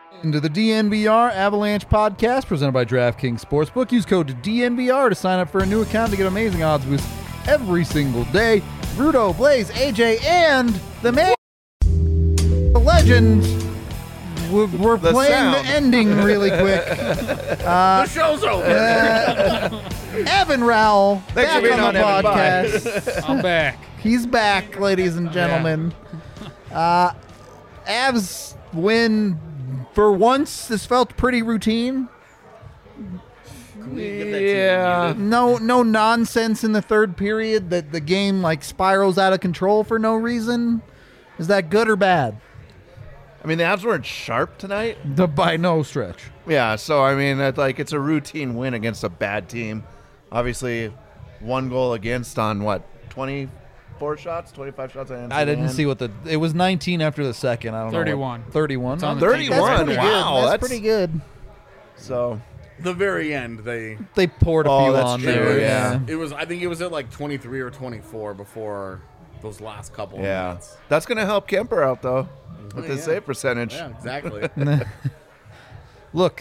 Into the DNVR Avalanche podcast presented by DraftKings Sportsbook. Use code DNVR to sign up for a new account to get amazing odds boosts every single day. Rudo, Blaze, AJ, and the man, the legend. We're playing sound. the ending really quick. The show's over. Evan Rowell, Thanks back for being on the on, Evan. Bye. podcast. I'm back. He's back, ladies and gentlemen. Avs win. For once, this felt pretty routine. Yeah. No nonsense in the third period that the game like spirals out of control for no reason. Is that good or bad? I mean, the Avs weren't sharp tonight. By no stretch. Yeah, so I mean, it's a routine win against a bad team. Obviously, one goal against on what, 24 shots, 25 shots. I didn't see what it was 19 after the second. I don't 31. know. 31. It's on the 31. That's pretty Wow, good. That's that's pretty good. So The very end, they They poured a Oh, few that's on true, there. yeah. it was. I think it was at like 23 or 24 before those last couple. yeah, of minutes. that's gonna help Kemper out though with Oh, his yeah. save percentage. Yeah, exactly. Look,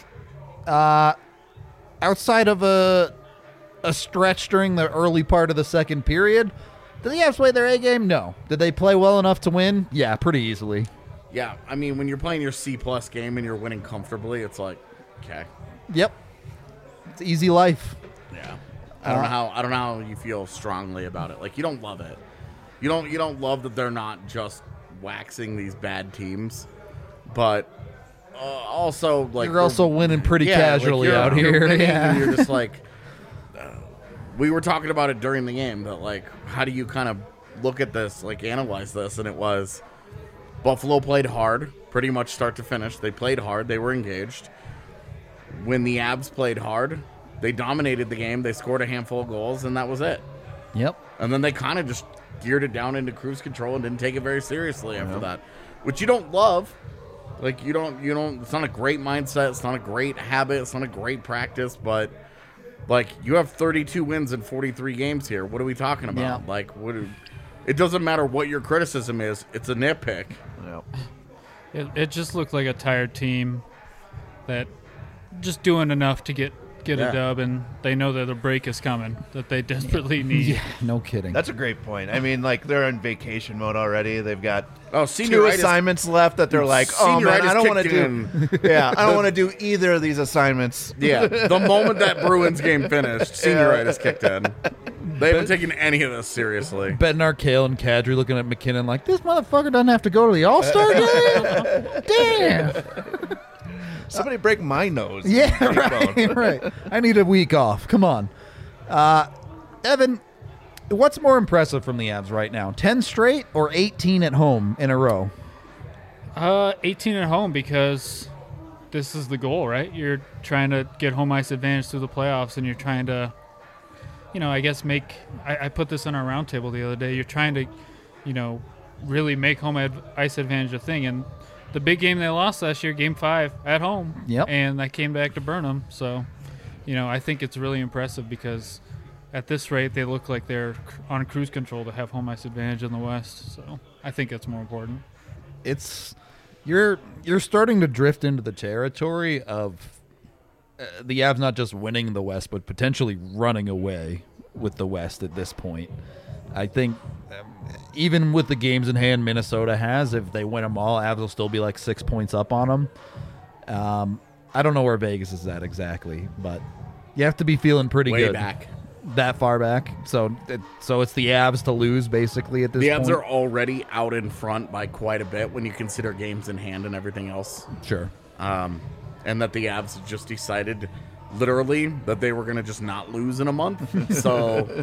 outside of a stretch during the early part of the second period, did the Avs play their A game? No. Did they play well enough to win? Yeah, pretty easily. Yeah, I mean, when you're playing your C+ game and you're winning comfortably, it's like, okay, Yep. It's easy life. yeah. I don't know how you feel strongly about it. Like, you don't love it. You don't love that they're not just waxing these bad teams, but also like You're also winning pretty yeah, casually like out you're here. winning Yeah. and you're just like, we were talking about it during the game that like, how do you kind of look at this, like analyze this, and it was Buffalo played hard, pretty much start to finish. They played hard, they were engaged. When the Avs played hard, they dominated the game. They scored a handful of goals, and that was it. Yep. And then they kind of just geared it down into cruise control and didn't take it very seriously after that, which you don't love. Like, you don't, it's not a great mindset. It's not a great habit. It's not a great practice, but like, you have 32 wins in 43 games here. What are we talking about? Yeah. Like, it doesn't matter what your criticism is. It's a nitpick. Yeah. It just looked like a tired team that just doing enough to get Yeah. a dub, and they know that a break is coming that they desperately need. Yeah, no kidding. That's a great point. I mean, like, they're in vacation mode already. They've got Oh, two senioritis. assignments left that they're like, oh man, I don't want to kicked do. Yeah, I don't want to do either of these assignments. Yeah, the moment that Bruins game finished, senioritis kicked in. They haven't taken any of this seriously. Bednar, Kale, and Kadri looking at McKinnon like, this motherfucker doesn't have to go to the All-Star game? Damn. Somebody break my nose. Yeah, Cheekbone. right. I need a week off. Come on. Evan, what's more impressive from the Avs right now? 10 straight or 18 at home in a row? 18 at home, because this is the goal, right? You're trying to get home ice advantage through the playoffs, and you're trying to, I guess I put this on our roundtable the other day. You're trying to, really make home ice advantage a thing. And the big game they lost last year, Game 5, at home. Yep. And that came back to burn them. So, I think it's really impressive, because at this rate, they look like they're on cruise control to have home ice advantage in the West. So I think it's more important. It's you're starting to drift into the territory of the Avs not just winning the West, but potentially running away with the West at this point. I think even with the games in hand Minnesota has, if they win them all, Avs will still be like 6 points up on them. I don't know where Vegas is at exactly, but you have to be feeling pretty Way good. back. That far back. So it's the Avs to lose basically at this The point. Avs are already out in front by quite a bit when you consider games in hand and everything else. Sure. And that the Avs just decided, literally, that they were going to just not lose in a month. So,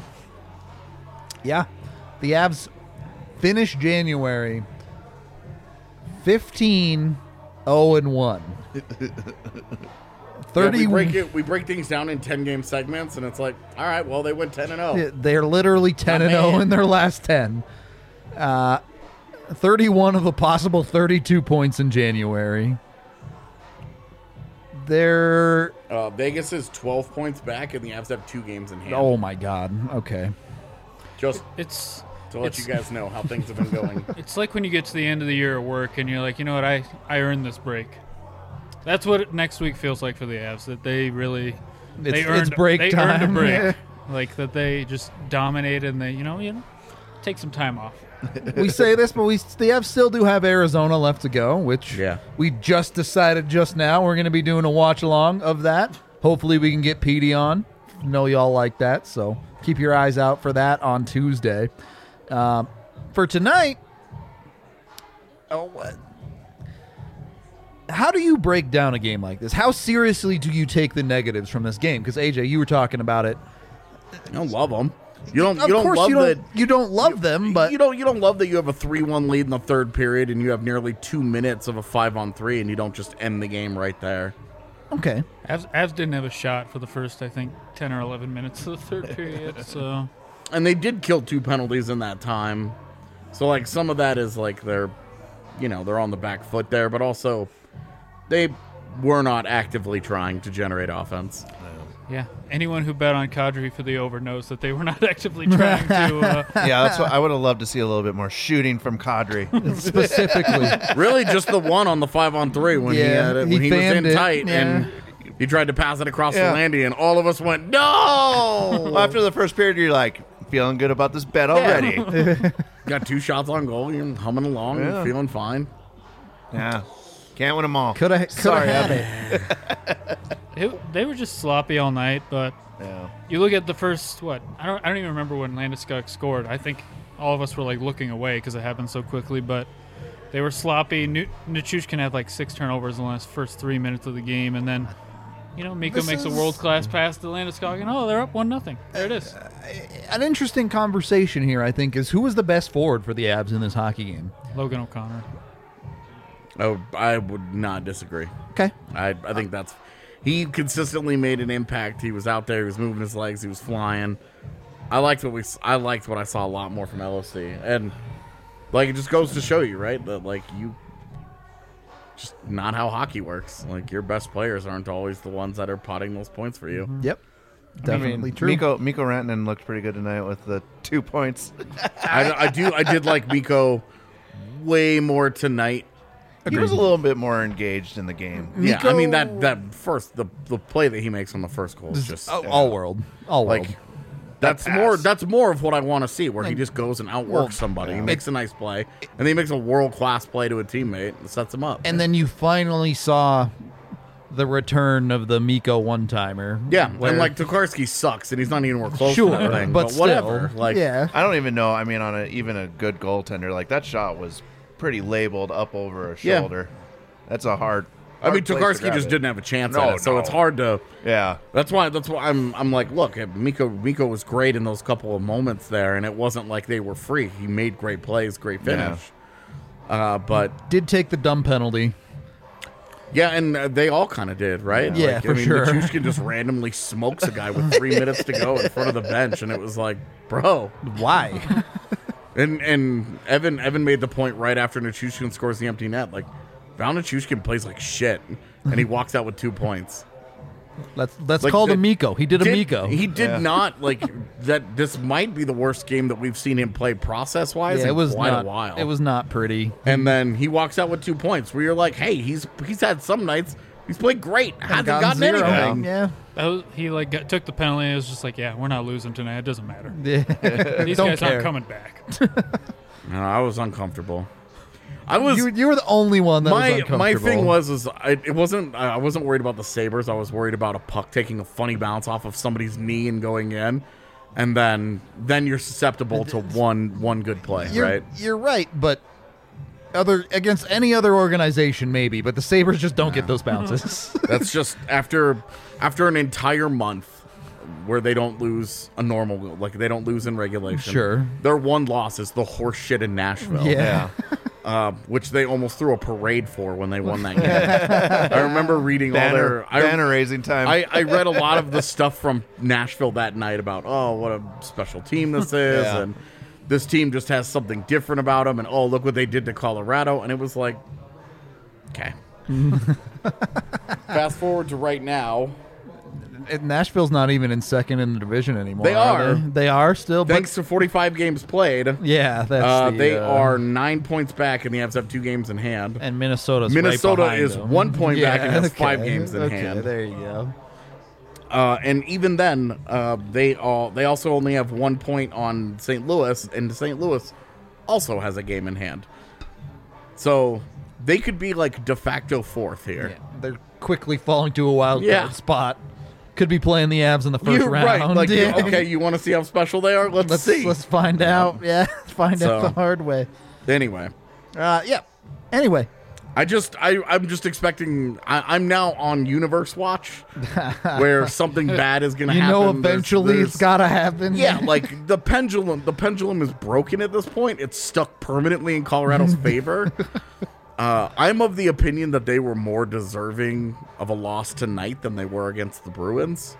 Yeah. The Avs finished January 15-0-1. 30 yeah, we break things down in 10-game segments, and it's like, all right, well, they went 10-0. They're literally 10-0 in their last 10. 31 of a possible 32 points in January. They're Vegas is 12 points back, and the Avs have 2 games in hand. oh my god. Okay. Just It's to let you guys know how things have been going. It's like when you get to the end of the year at work and you're like, you know what, I earned this break. That's what next week feels like for the Avs. That they really It's break they time. earned a break. Yeah. Like that they just dominated and they you know take some time off. We say this, but the Avs still do have Arizona left to go, which we just decided just now we're going to be doing a watch along of that. Hopefully we can get Petey on. I know y'all like that, so keep your eyes out for that on Tuesday. For tonight, how do you break down a game like this? How seriously do you take the negatives from this game? Because AJ, you were talking about it. I don't love them. You don't love them, but you don't love that you have a 3-1 lead in the third period and you have nearly 2 minutes of a 5-on-3 and you don't just end the game right there. Okay. Avs didn't have a shot for the first, I think, 10 or 11 minutes of the third period. So, and they did kill 2 penalties in that time. So like some of that is like they're on the back foot there, but also they were not actively trying to generate offense. yeah, anyone who bet on Kadri for the over knows that they were not actively trying to. Yeah, that's what I would have loved to see a little bit more shooting from Kadri. specifically. Really, just the one on the 5-on-3 when he was fanned in it, tight and he tried to pass it across the landy, and all of us went no. Well, after the first period, you're like feeling good about this bet already. Got 2 shots on goal, you're humming along, and feeling fine. Yeah, can't win them all. Could have had it. They were just sloppy all night, but you look at the first I don't even remember when Landeskog scored. I think all of us were like looking away because it happened so quickly, but they were sloppy. Nichushkin had like 6 turnovers in the first 3 minutes of the game, and then Mikko makes a world-class pass to Landeskog, and they're up 1-0. There it is. An interesting conversation here, I think, is who was the best forward for the Avs in this hockey game? Logan O'Connor. Oh, I would not disagree. Okay. I think he consistently made an impact. He was out there. He was moving his legs. He was flying. I liked what I saw a lot more from LOC, and like it just goes to show you, right, that like you just not how hockey works. Like your best players aren't always the ones that are potting those points for you. Yep. Definitely true. Mikko Rantanen looked pretty good tonight with the 2 points. I did like Mikko way more tonight. He was a little bit more engaged in the game. Yeah, I mean that first the play that he makes on the first goal is just all world. Like that's more of what I want to see, where he just goes and outworks somebody. He makes a nice play, and then he makes a world-class play to a teammate and sets him up. And then you finally saw the return of the Mikko one-timer. Yeah, and like Tokarski sucks, and he's not even close Sure, to that thing, but whatever. still, Like, yeah. I don't even know. I mean, on even a good goaltender, like that shot was pretty labeled up over a shoulder. That's a hard. I mean, place to Tokarski grab just it. didn't have a chance at it, so it's hard to. Yeah, That's why I'm like, look, Mikko was great in those couple of moments there, and it wasn't like they were free. He made great plays, great finish. But Did take the dumb penalty. yeah, and they all kind of did, right? Yeah, for sure. Nichushkin just randomly smokes a guy with 3 minutes to go in front of the bench, and it was like, bro. Why? And Evan made the point right after Nichushkin scores the empty net, like, Val Nichushkin plays like shit, and he walks out with 2 points. Let's Like, call him Mikko. He did a Mikko. He did not, like, that. This might be the worst game that we've seen him play process-wise Yeah, in quite a while. It was not pretty. And then he walks out with 2 points, where you're like, hey, he's had some nights he's played great, hasn't gotten zero. anything. Yeah. He took the penalty. It was just like, we're not losing tonight. It doesn't matter. Yeah. These Don't guys care. aren't coming back. No, I was uncomfortable. I was. You were the only one that was uncomfortable. My thing was I wasn't worried about the Sabres. I was worried about a puck taking a funny bounce off of somebody's knee and going in, and then you're susceptible to one good play, right? You're right, but against any other organization maybe, but the Sabres just don't get those bounces. That's just after an entire month where they don't lose a normal, like they don't lose in regulation. Sure. Their one loss is the horse shit in Nashville. Yeah. Which they almost threw a parade for when they won that game. I remember reading banner raising time. I read a lot of the stuff from Nashville that night about, what a special team this is, and this team just has something different about them, and look what they did to Colorado, and it was like, okay. Fast forward to right now. Nashville's not even in second in the division anymore. They are. They are still. Thanks to 45 games played. Yeah, that's they are 9 points back, and the Avs have 2 games in hand. And Minnesota right is them. 1 point back and has 5 games in hand. There you go. And even then, they also only have 1 point on St. Louis, and St. Louis also has a game in hand. So they could be like de facto fourth here. Yeah, they're quickly falling to a wild card Yeah. spot. Could be playing the Avs in the first You're round. right. Like, Yeah. okay, you want to see how special they are? Let's see. Let's find out. Yeah, find out So- the hard way. Anyway, Yeah. Anyway, I'm just expecting. I'm now on Universe Watch, where something bad is going to you happen. know, eventually There's- it's got to happen. Yeah, like the pendulum is broken at this point. It's stuck permanently in Colorado's favor. I'm of the opinion that they were more deserving of a loss tonight than they were against the Bruins.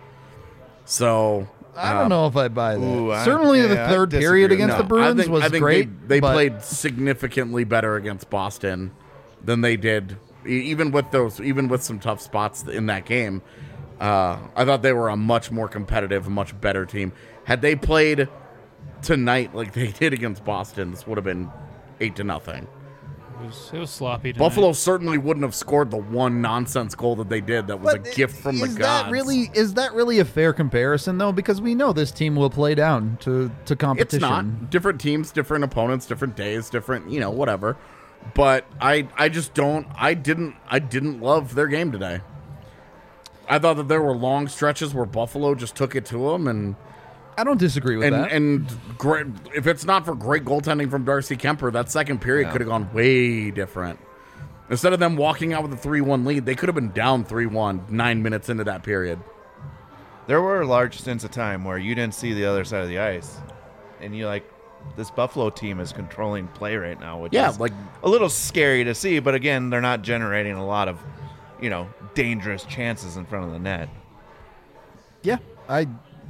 So I don't know if I buy that. Ooh, Certainly, the I third disagree period with against no, the Bruins I think was great. They but played significantly better against Boston than they did, even with some tough spots in that game. I thought they were a much more competitive, much better team. Had they played tonight like they did against Boston, this would have been 8-0. It was sloppy tonight. Buffalo certainly wouldn't have scored the one nonsense goal that they did. That was a gift from the gods. Is that really a fair comparison, though? Because we know this team will play down to competition. It's not. Different teams, different opponents, different days, different, whatever. But I didn't love their game today. I thought that there were long stretches where Buffalo just took it to them, and I don't disagree with that. And great, if it's not for great goaltending from Darcy Kemper, that second period could have gone way different. Instead of them walking out with a 3-1 lead, they could have been down 3-1 9 minutes into that period. There were large stints of time where you didn't see the other side of the ice, and you're like, this Buffalo team is controlling play right now, which is like a little scary to see. But again, they're not generating a lot of, dangerous chances in front of the net. Yeah, I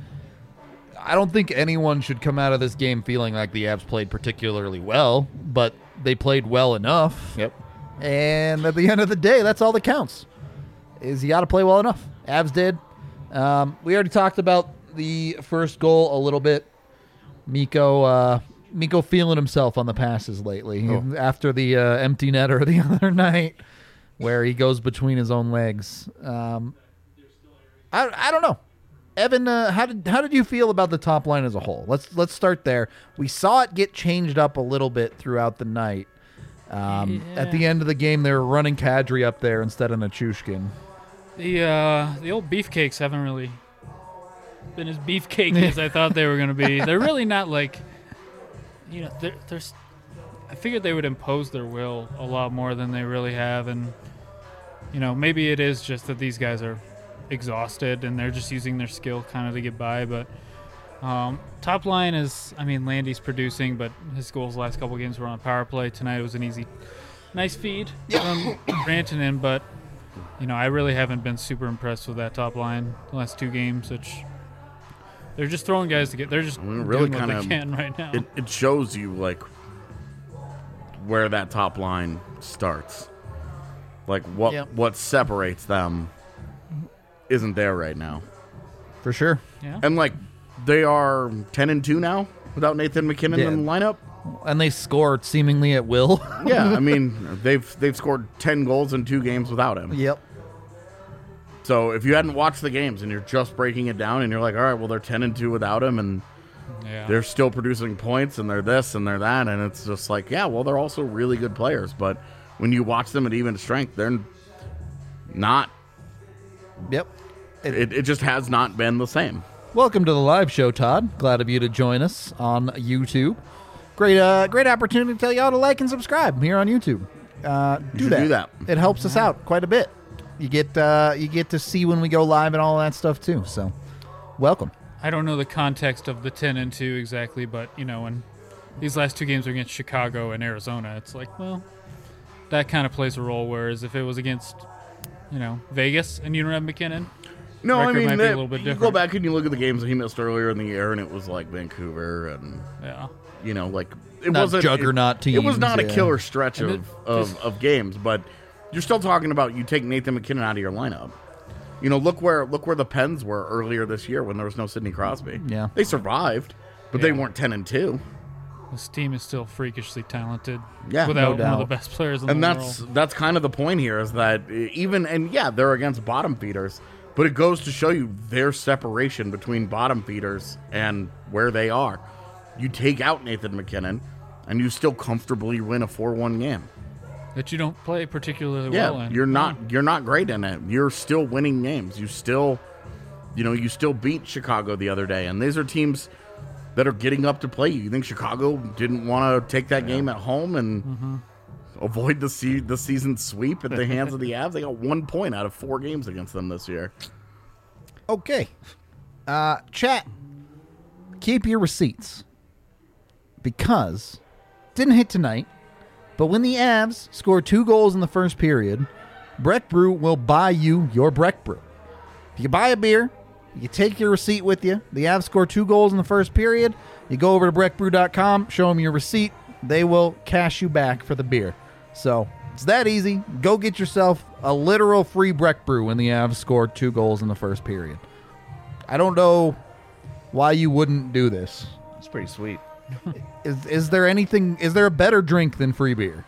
don't think anyone should come out of this game feeling like the Avs played particularly well, but they played well enough. Yep. And at the end of the day, that's all that counts. Is you got to play well enough. Avs did. We already talked about the first goal a little bit. Mikko feeling himself on the passes lately after the empty netter the other night, where he goes between his own legs. I don't know. Evan, how did you feel about the top line as a whole? Let's start there. We saw it get changed up a little bit throughout the night. At the end of the game, they were running Kadri up there instead of Nichushkin. The old beefcakes haven't really been as beefcakey as I thought they were going to be. They're really not like, there's. I figured they would impose their will a lot more than they really have, and maybe it is just that these guys are exhausted and they're just using their skill kind of to get by. But top line is, Landy's producing, but his goals the last couple games were on power play. Tonight it was an nice feed from Rantanen, but I really haven't been super impressed with that top line the last 2 games, which they're just throwing guys to get. They're just really doing what they can right now. It shows you like where that top line starts, like what separates them isn't there right now. For sure. Yeah. And like they are 10-2 now without Nathan McKinnon in the lineup. And they scored seemingly at will. Yeah, they've scored 10 goals in 2 games without him. Yep. So if you hadn't watched the games and you're just breaking it down and you're like, all right, well they're 10-2 without him and they're still producing points and they're this and they're that, and it's just like, yeah, well they're also really good players, but when you watch them at even strength, they're not. Yep. It just has not been the same. Welcome to the live show, Todd. Glad of you to join us on YouTube. Great opportunity to tell y'all to like and subscribe here on YouTube. Do that. It helps us out quite a bit. You get to see when we go live and all that stuff too. So, welcome. I don't know the context of the 10-2 exactly, but when these last 2 games are against Chicago and Arizona, it's like, well, that kind of plays a role. Whereas if it was against, Vegas and you don't have McKinnon, no, record might be a little bit you different. go back and you look at the games that he missed earlier in the year, and it was like Vancouver and like it Not wasn't juggernaut teams. It was not a yeah. killer stretch of games, but you're still talking about you take Nathan McKinnon out of your lineup. You know, look where the Pens were earlier this year when there was no Sidney Crosby. Yeah. They survived, but they Yeah. weren't 10-2. This team is still freakishly talented. Yeah, without no one of doubt. the best players in And the that's world. that's kind of the point here is that they're against bottom feeders, but it goes to show you their separation between bottom feeders and where they are. You take out Nathan McKinnon, and you still comfortably win a 4-1 game. That you don't play particularly Yeah, well in. you're not great in it. You're still winning games. You still beat Chicago the other day, and these are teams that are getting up to play you. You think Chicago didn't want to take that game at home and avoid the season sweep at the hands of the Avs? They got 1 point out of 4 games against them this year. Okay. Chat, keep your receipts. Because didn't hit tonight, but when the Avs score 2 goals in the first period, Breck Brew will buy you your Breck Brew. If you buy a beer, you take your receipt with you. The Avs score 2 goals in the first period. You go over to breckbrew.com, show them your receipt. They will cash you back for the beer. So it's that easy. Go get yourself a literal free Breck Brew when the Avs score 2 goals in the first period. I don't know why you wouldn't do this. It's pretty sweet. Is there a better drink than free beer?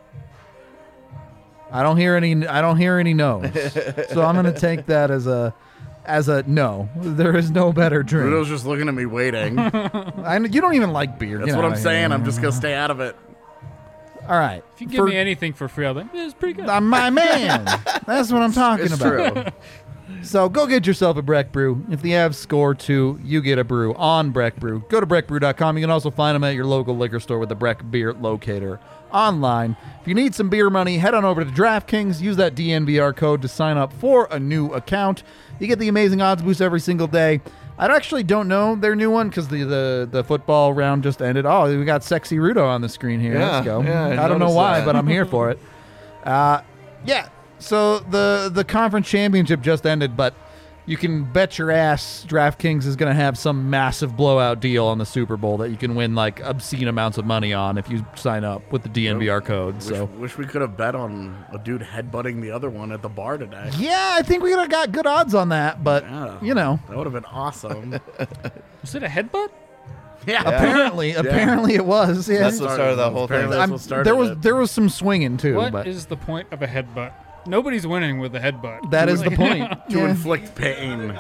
I don't hear any no's. So I'm going to take that as a no. There is no better drink. Rudo's just looking at me waiting. That's You don't even like beer. what I'm saying. I'm just going to stay out of it. All right. If you give me anything for free, I'll be like, it's pretty good. I'm my man. That's what I'm talking It's about. true. So go get yourself a Breck Brew. If the Avs score 2, you get a brew on Breck Brew. Go to breckbrew.com. You can also find them at your local liquor store with the Breck Beer Locator online. If you need some beer money, head on over to DraftKings. Use that DNVR code to sign up for a new account. You get the amazing odds boost every single day. I actually don't know their new one because the football round just ended. Oh, we got Sexy Rudo on the screen here. Yeah, Let's go. yeah, I I don't know noticed why, that. but I'm here for it. Yeah. So the conference championship just ended, but you can bet your ass DraftKings is going to have some massive blowout deal on the Super Bowl that you can win like obscene amounts of money on if you sign up with the DNVR code. So Wish we could have bet on a dude headbutting the other one at the bar today. yeah, I think we would have got good odds on that, but Yeah. you know, That would have been awesome. Was it a headbutt? Yeah. apparently it was. Yeah. That's what started the whole thing. Apparently that's what started there was it. there was some swinging too, What is but the point of a headbutt? Nobody's winning with a headbutt. that is the point. to Yeah. inflict pain.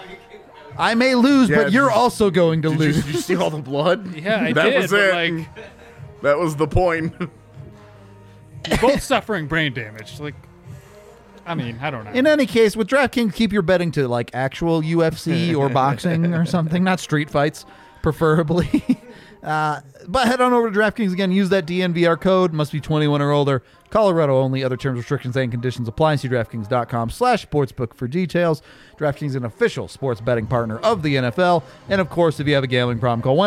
I may lose, Yeah, but you're did- also going to Did lose. you see all the blood? Yeah, I that did. was but it. like, That was the point. you're both suffering brain damage. Like, I mean, I don't know. In any case, with DraftKings, keep your betting to like actual UFC or boxing or something, not street fights, preferably. But head on over to DraftKings again. Use that DNVR code. Must be 21 or older. Colorado only. Other terms, restrictions, and conditions apply. See DraftKings.com/sportsbook for details. DraftKings is an official sports betting partner of the NFL. And of course, if you have a gambling problem, call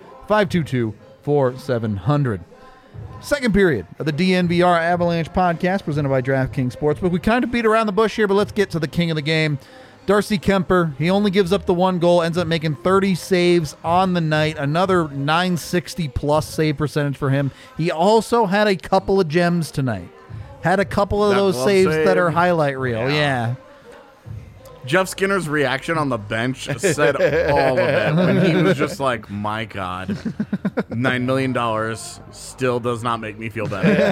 1-800-522-4700. Second period of the DNVR Avalanche podcast presented by DraftKings Sportsbook. We kind of beat around the bush here, but let's get to the king of the game. Darcy Kemper, he only gives up the 1 goal, ends up making 30 saves on the night, another 960-plus save percentage for him. He also had a couple of gems tonight. Had a couple of That those glove saves save? that are highlight reel, Yeah. yeah. Jeff Skinner's reaction on the bench said all of it. When he was just like, my God, $9 million still does not make me feel better.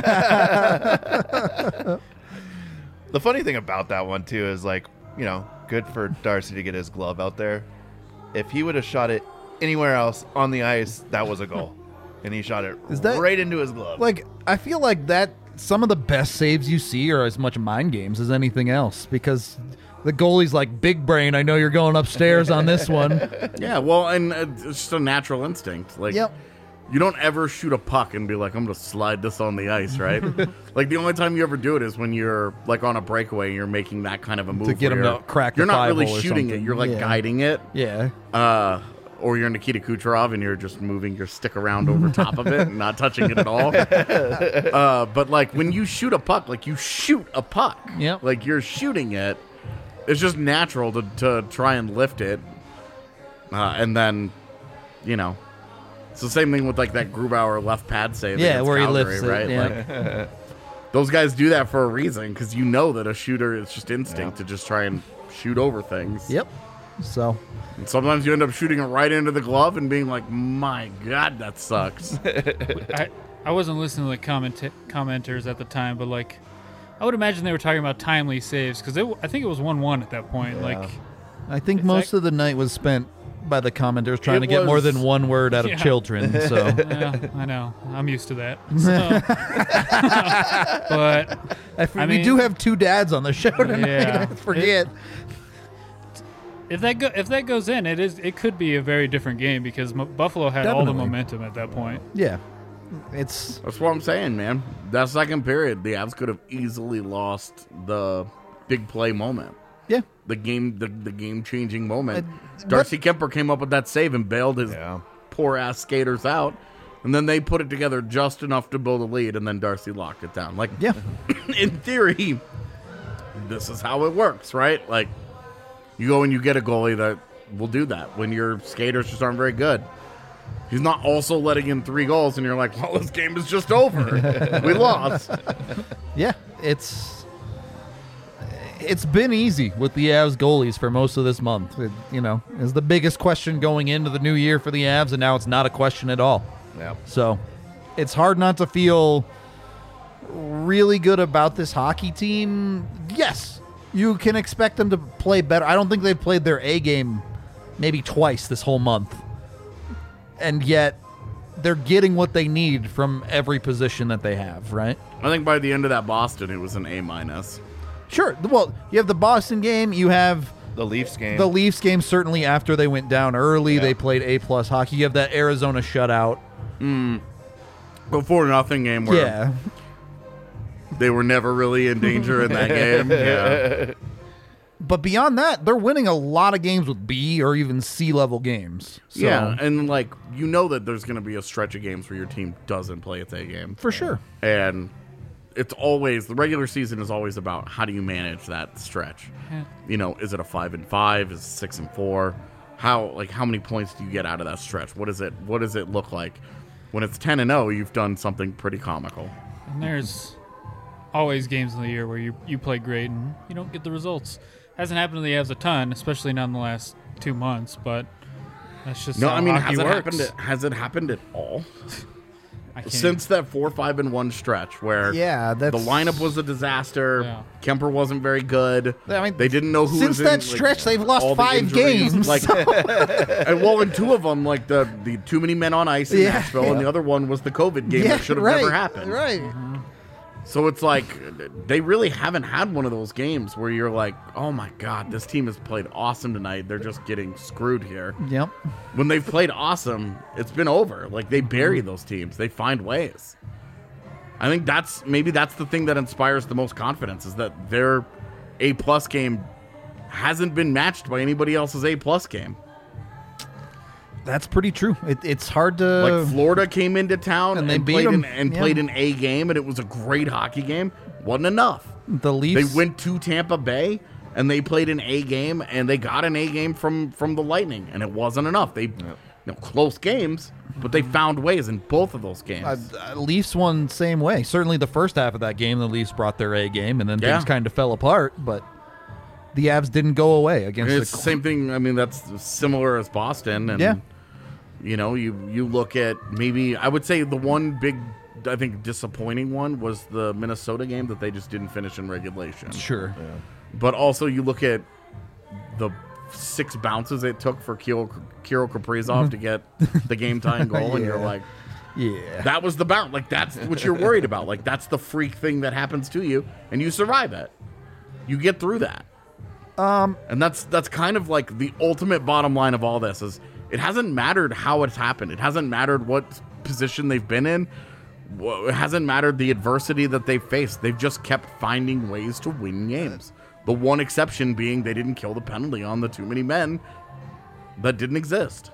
The funny thing about that one too is like, you know, good for Darcy to get his glove out there. If he would have shot it anywhere else on the ice, that was a goal. And he shot it Is that- right into his glove. Like, I feel like that some of the best saves you see are as much mind games as anything else because the goalie's like, big brain, I know you're going upstairs on this one. Yeah, well, and it's just a natural instinct. Like, Yep. you don't ever shoot a puck and be like, I'm going to slide this on the ice, right? Like, the only time you ever do it is when you're, like, on a breakaway and you're making that kind of a move. To get where him to you're- crack the You're not really 5-hole or shooting it. something. You're, like, Yeah. guiding it. Yeah. Or you're Nikita Kucherov and you're just moving your stick around over top of it and not touching it at all. But, like, when you shoot a puck, like, you shoot a puck. Yep. Like, you're shooting it. It's just natural to try and lift it. And then, you know, it's the same thing with, like, that Grubauer left pad save Yeah, against where he Calgary, lifts it, right? yeah. Like, those guys do that for a reason because you know that a shooter is just instinct to just try and shoot over things. Yep. So And sometimes you end up shooting it right into the glove and being like, my God, that sucks. I wasn't listening to the commenters at the time, but like, I would imagine they were talking about timely saves because I think it was 1-1 at that point. Yeah. Like, I think most of the night was spent by the commenters trying to get more than one word out of children. So yeah, I know. I'm used to that. So. But we mean, do have two dads on the show tonight. Yeah. I forget. If that goes in, it could be a very different game because Buffalo had all the momentum at that point. Yeah, that's what I'm saying, man. That second period, the Avs could have easily lost the big play moment. Yeah, the game changing moment. Darcy Kemper came up with that save and bailed his poor ass skaters out, and then they put it together just enough to build a lead, and then Darcy locked it down. Like, in theory, this is how it works, right? Like, you go and you get a goalie that will do that when your skaters just aren't very good. He's not also letting in 3 goals, and you're like, well, this game is just over. We lost. Yeah, it's been easy with the Avs goalies for most of this month. It, is the biggest question going into the new year for the Avs, and now it's not a question at all. Yeah. So it's hard not to feel really good about this hockey team. Yes, you can expect them to play better. I don't think they've played their A game maybe twice this whole month. And yet they're getting what they need from every position that they have, right? I think by the end of that Boston, it was an A-. Sure. Well, you have the Boston game. You have the Leafs game. The Leafs game, certainly after they went down early. Yeah. They played A+ hockey. You have that Arizona shutout. The 4-0 game where they were never really in danger in that game. Yeah. But beyond that, they're winning a lot of games with B or even C level games. So, yeah, and like that there's going to be a stretch of games where your team doesn't play its A game. For sure. And it's always, the regular season is always about how do you manage that stretch. Yeah. Is it a 5-5? Is it 6-4? How many points do you get out of that stretch? What does it look like? When it's 10-0, you've done something pretty comical. And there's always games in the year where you play great and you don't get the results. Hasn't happened to the Avs a ton, especially not in the last 2 months, but that's just how hockey works. Has it happened at all? I can't Since that 4-5-1 stretch where the lineup was a disaster, Kemper wasn't very good. I mean, they didn't know who since was in. That stretch, they've lost 5 games. And in 2 of them, like the too many men on ice in Nashville, and the other one was the COVID game that should have never happened. Right. So it's like they really haven't had one of those games where you're like, oh my God, this team has played awesome tonight. They're just getting screwed here. Yep. When they've played awesome, it's been over. Like they bury those teams. They find ways. I think that's the thing that inspires the most confidence is that their A+ game hasn't been matched by anybody else's A+ game. That's pretty true. It's hard to... Like Florida came into town and they beat them. Played an A game, and it was a great hockey game. Wasn't enough. The Leafs... They went to Tampa Bay, and they played an A game, and they got an A game from the Lightning, and it wasn't enough. They close games, but they found ways in both of those games. Leafs won same way. Certainly the first half of that game, the Leafs brought their A game, and then things kind of fell apart, but... The Avs didn't go away against it's the same thing. I mean, that's similar as Boston. And, you look at maybe, I would say the one big, I think, disappointing one was the Minnesota game that they just didn't finish in regulation. Sure. Yeah. But also you look at the 6 bounces it took for Kirill Kaprizov to get the game-tying goal, and you're like, that was the bounce. Like, that's what you're worried about. Like, that's the freak thing that happens to you, and you survive it. You get through that. And that's kind of like the ultimate bottom line of all this is it hasn't mattered how it's happened. It hasn't mattered what position they've been in. It hasn't mattered the adversity that they've faced. They've just kept finding ways to win games. The one exception being they didn't kill the penalty on the too many men that didn't exist.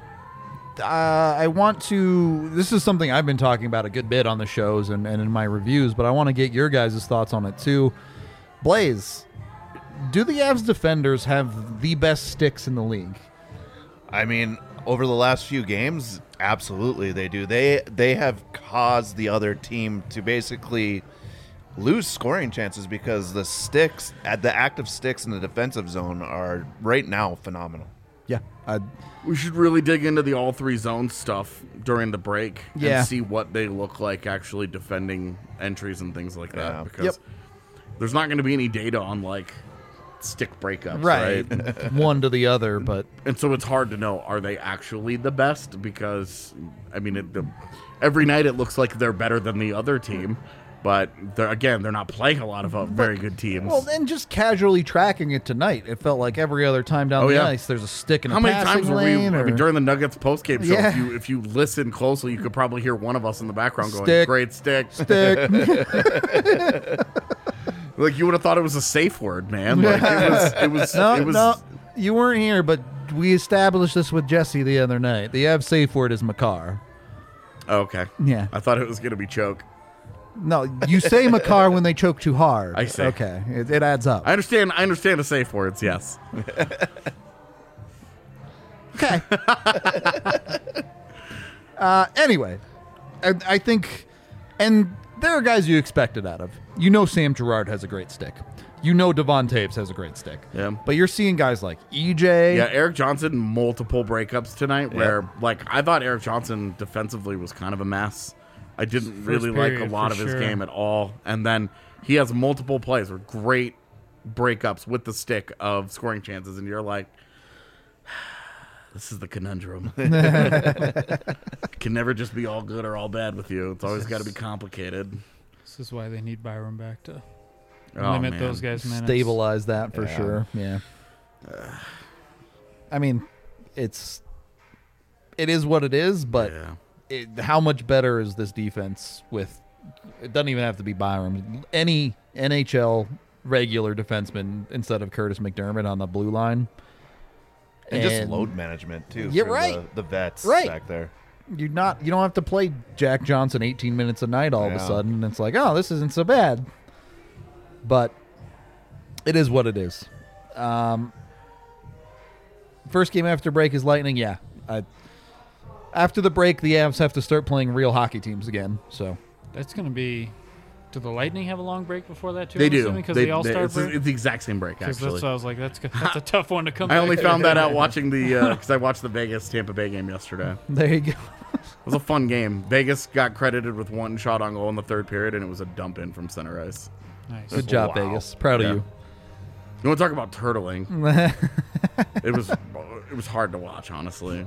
I want to... This is something I've been talking about a good bit on the shows and in my reviews, but I want to get your guys' thoughts on it too. Blaze... Do the Avs defenders have the best sticks in the league? I mean, over the last few games, absolutely they do. They have caused the other team to basically lose scoring chances because the sticks, at the active sticks in the defensive zone are right now phenomenal. Yeah. We should really dig into the all three zone stuff during the break Yeah. and see what they look like actually defending entries and things like that. Yeah. Because Yep. there's not going to be any data on like stick breakups, Right. right? One to the other, but And so it's hard to know, are they actually the best? Because, I mean, every night it looks like they're better than the other team. But, they're not playing a lot of very good teams. well, and just casually tracking it tonight, it felt like every other time down Oh, the yeah. ice, there's a stick in How a many passing times were we? lane. I mean, or- during the Nuggets postgame show, Yeah. if you listen closely, you could probably hear one of us in the background going, Stick. "Great stick." stick. Like you would have thought it was a safe word, man. Like it was. No, it was. no, you weren't here, but we established this with Jesse the other night. The Av safe word is Makar. Oh, okay. Yeah. I thought it was gonna be choke. No, you say Makar when they choke too hard. I see. Okay, it adds up. I understand the safe words. Yes. Okay. Anyway, I think, and there are guys you expect it out of. You know Sam Girard has a great stick. You know Devon Taves has a great stick. Yeah. But you're seeing guys like EJ. Yeah, Eric Johnson, multiple breakups tonight where, like, I thought Eric Johnson defensively was kind of a mess. I didn't really like a period, lot of for his sure. game at all. And then he has multiple plays with great breakups with the stick of scoring chances. And you're like, this is the conundrum. It can never just be all good or all bad with you. It's always got to be complicated. This is why they need Byron back to Oh, limit man. those guys' minutes. Stabilize that for Yeah. sure. Yeah. I mean, it is what it is, but Yeah. how much better is this defense with? It doesn't even have to be Byram. Any NHL regular defenseman instead of Curtis McDermott on the blue line. And just load management too. Yeah, for right. The vets Right. back there. You don't have to play Jack Johnson 18 minutes a night all of a Yeah. sudden. And it's like, oh, this isn't so bad. But it is what it is. First game after break is Lightning. Yeah. After the break, the Avs have to start playing real hockey teams again. So That's going to be. Do the Lightning have a long break before that too? They I'm do. assuming, 'cause They- the All-Star it's, break. it's the exact same break, 'Cause actually. that's what I was like. That's a tough one to come. I only back. found that out watching because I watched the Vegas Tampa Bay game yesterday. there you go. It was a fun game. Vegas got credited with one shot on goal in the third period, and it was a dump in from center ice. Nice. Good job, Wow. Vegas. Proud Yeah. of you. You want to talk about turtling? it was hard to watch, honestly.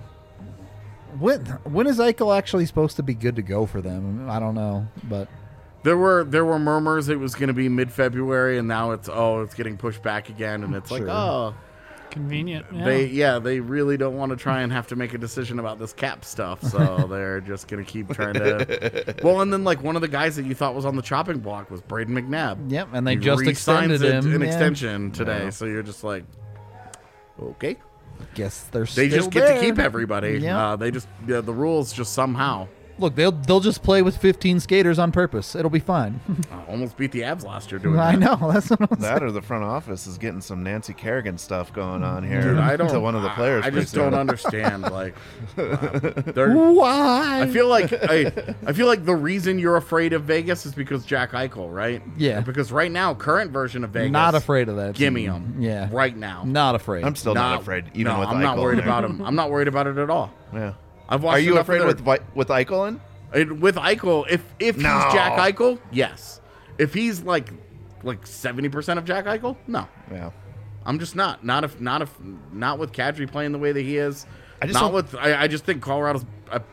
When is Eichel actually supposed to be good to go for them? I don't know, but There were murmurs it was going to be mid-February, and now it's getting pushed back again, and it's Sure. like Convenient. Yeah. they really don't want to try and have to make a decision about this cap stuff, so they're just going to keep trying to. Well, and then like one of the guys that you thought was on the chopping block was Braden McNabb. yep, and they He just re-signs extended him. an Yeah. extension today, Yeah. so you're just like, okay. Guess they're They still just get there. to keep everybody. Yeah. They just the rules just somehow Look, they'll just play with 15 skaters on purpose. It'll be fine. almost beat the Avs last year doing I that. know. That's what I'm saying. That or the front office is getting some Nancy Kerrigan stuff going on here. Dude, I don't. To one of the players. I just pretty soon. don't understand. Like, they're. Why? I feel like I feel like the reason you're afraid of Vegas is because Jack Eichel, right? Yeah. Because right now, current version of Vegas, Not afraid of that. Gimme team. him. Yeah. Right now. Not afraid. I'm still not afraid, even no, with I'm Eichel not worried in there. about him. I'm not worried about it at all. Yeah. I've watched Are you enough of afraid their- with Eichel in? With Eichel, if No. he's Jack Eichel, yes. If he's like 70% of Jack Eichel, no. Yeah. I'm just not with Kadri playing the way that he is. I just I just think Colorado's.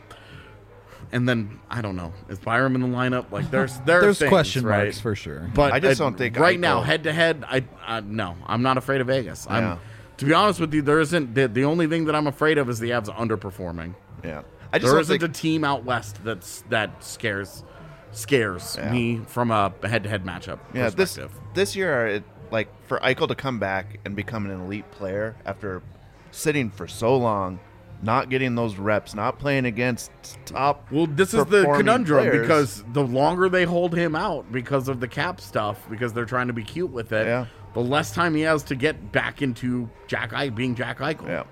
And then I don't know. Is Byram in the lineup? Like there's things, question right? marks for sure. But I just don't think right Eichel- now head to head. No, I'm not afraid of Vegas. Yeah. To be honest with you, there isn't the only thing that I'm afraid of is the Avs underperforming. Yeah. I just There don't isn't think a team out west that scares Yeah. me from a head-to-head matchup Yeah, perspective. this year, like for Eichel to come back and become an elite player after sitting for so long, not getting those reps, not playing against top. Well, this is the performing conundrum players. because the longer they hold him out because of the cap stuff, because they're trying to be cute with it, Yeah. the less time he has to get back into being Jack Eichel. Yeah.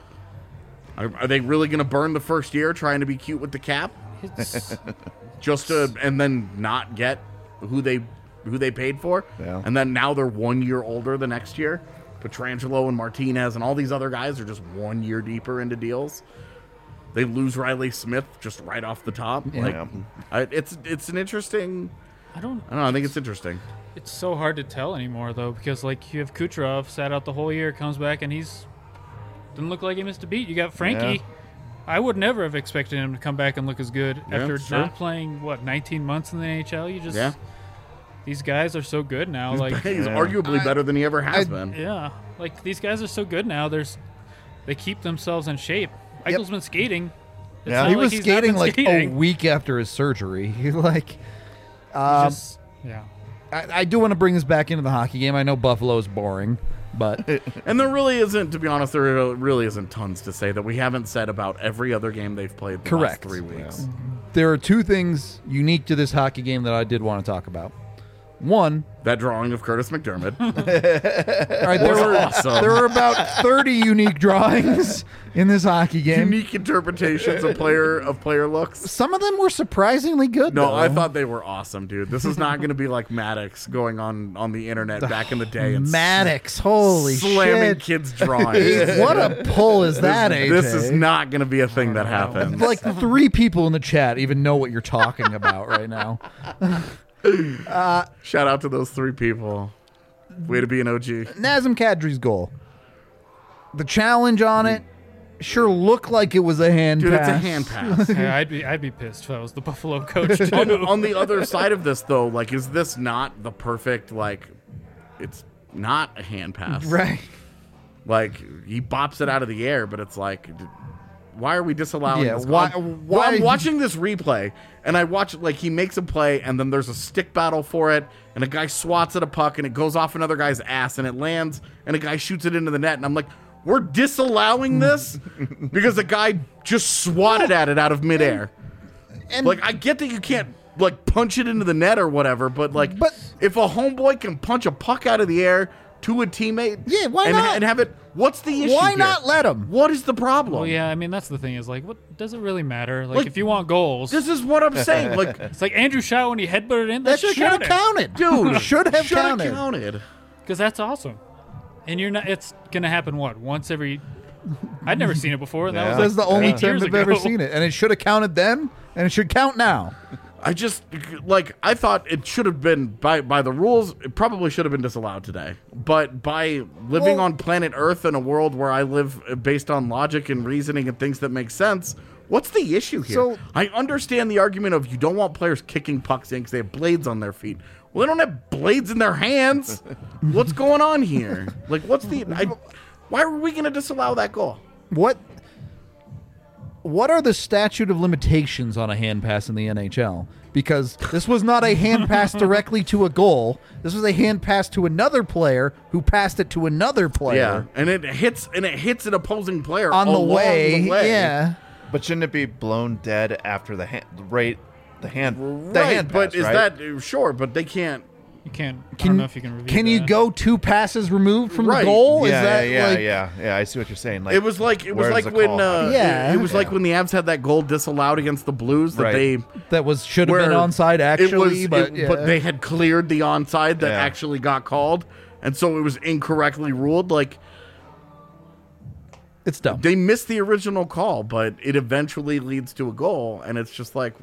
Are they really going to burn the first year trying to be cute with the cap It's, just to and then not get who they who they paid for, Yeah. and then now they're 1 year older the next year. Petrangelo and Martinez and all these other guys are just 1 year deeper into deals. They lose Riley Smith just right off the top. Yeah. It's an interesting. I don't. I don't know. I think it's interesting. It's so hard to tell anymore though, because like you have Kucherov sat out the whole year, comes back and he's didn't look like he missed a beat. You got Frankie. Yeah. I would never have expected him to come back and look as good Yeah, after sure. not playing 19 months in the NHL. You just Yeah. these guys are so good now. Like He's arguably better than he ever has been. yeah, like these guys are so good now. They keep themselves in shape. Eichel's been skating. It's Yeah. not He like was he's not skating been like skating. a week after his surgery. He like, He um, yeah. I do want to bring this back into the hockey game. I know Buffalo's boring, but And there really isn't, to be honest, there really isn't tons to say that we haven't said about every other game they've played the Correct. last 3 weeks. there are two things unique to this hockey game that I did want to talk about. One, That drawing of Curtis McDermott. all right, there were awesome. there were about 30 unique drawings in this hockey game. Unique interpretations of player looks. Some of them were surprisingly good. No, though. I thought they were awesome, dude. This is not going to be like Maddox going on the internet back in the day and Maddox, holy slamming shit! kids' drawings. What a pull is that, AJ? This is not going to be a thing that happens. Like 3 people in the chat even know what you're talking about right now. Shout out to those 3 people. Way to be an OG. Nazem Kadri's goal. The challenge on it sure looked like it was a hand Dude, pass. it's a hand pass. Yeah, I'd be pissed if I was the Buffalo coach too. On the other side of this, though, like, is this not the perfect, like, it's not a hand pass. Right. Like, he bops it out of the air, but it's like, why are we disallowing Yeah, this? why- Well, I'm watching this replay, and I watch, like, he makes a play, and then there's a stick battle for it, and a guy swats at a puck, and it goes off another guy's ass, and it lands, and a guy shoots it into the net, and I'm like, we're disallowing this because a guy just swatted at it out of midair. And Like, I get that you can't, like, punch it into the net or whatever, but, like, But- if a homeboy can punch a puck out of the air to a teammate Yeah, why and, not? and have it, what's the issue why here? not let him? What is the problem? Well, yeah, I mean that's the thing is like, what does it really matter? Like, if you want goals, This is what I'm saying. Like, it's like Andrew Shaw when he headbutted in. That That should have counted. dude, should have shoulda counted. because that's awesome. And you're not. It's gonna happen once every. I'd never seen it before. And Yeah. that That's was the like only 8 time years I've ever ago. seen it. And it should have counted then, and it should count now. I just, like, I thought it should have been, by the rules, it probably should have been disallowed today. But by living Well- on planet Earth in a world where I live based on logic and reasoning and things that make sense, what's the issue here? So- I understand the argument of you don't want players kicking pucks in because they have blades on their feet. Well, they don't have blades in their hands. What's going on here? Like, why are we going to disallow that goal? What are the statute of limitations on a hand pass in the NHL? Because this was not a hand pass directly to a goal. This was a hand pass to another player who passed it to another Yeah, player and it hits an opposing player on the along way. the way. Yeah. But shouldn't it be blown dead after the hand? Right, the hand. The Right, hand but pass, is right? that sure? But they can't. You can't. I don't know if you can review. Can you that. go 2 passes removed from Right. the goal? Yeah, Is that yeah, like, yeah. I see what you're saying. Like It was like where's the when call? Yeah. it was like when the Avs had that goal disallowed against the Blues that Right. they that should have been where onside actually, it was, but, yeah. but they had cleared the onside that Yeah. actually got called, and so it was incorrectly ruled. Like it's dumb. they missed the original call, but it eventually leads to a goal, and it's just like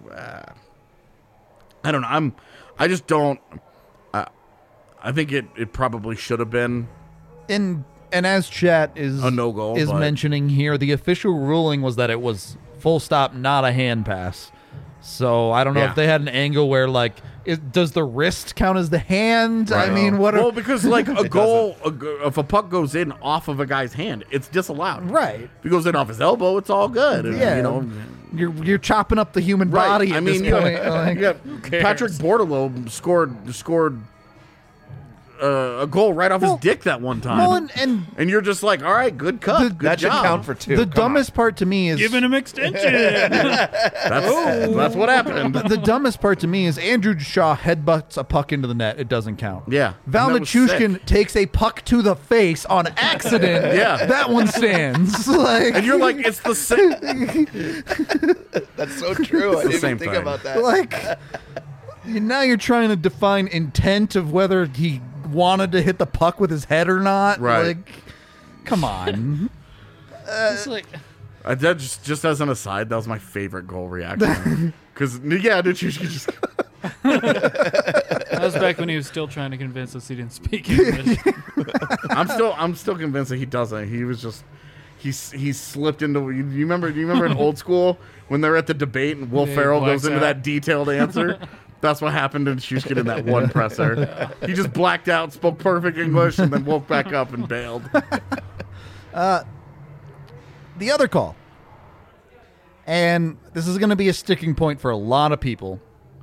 I don't know. I just don't. I think it probably should have been. And as chat is A no-goal, is but- mentioning here, the official ruling was that it was full stop, not a hand pass. So I don't know Yeah. if they had an angle where like, does the wrist count as the hand? I Right. mean, what? Well, because like a goal, if a puck goes in off of a guy's hand, it's disallowed. right? If it goes in off his elbow, it's all good. And, Yeah. you know. You're chopping up the human body at this you point. got- like- you got Patrick Bordelot scored a goal right off Well- his dick that one time. well, and And you're just like, all right, good cut. good that should job. count for 2. the Come dumbest part to me is Giving him extension. That's what happened. the dumbest part to me is Andrew Shaw headbutts a puck into the net. It doesn't count. Yeah. Val And that was Nichushkin sick. takes a puck to the face on accident. Yeah. That one stands. Like, And you're like, it's the same. on. That's so true. I the didn't same even think thing. about that. like Now you're trying to define intent of whether he wanted to hit the puck with his head or not. Right. Like, come on. It's like That just as an aside, that was my favorite goal reaction. Because Nichushkin just that was back when he was still trying to convince us he didn't speak English. I'm still convinced that he doesn't. He was just he slipped into. You remember in Old School when they're at the debate and Will Yeah, he Ferrell blacks goes into out. that detailed answer. That's what happened to Nichushkin in that one presser. He just blacked out, spoke perfect English, and then woke back up and bailed. The other call. And this is going to be a sticking point for a lot of people.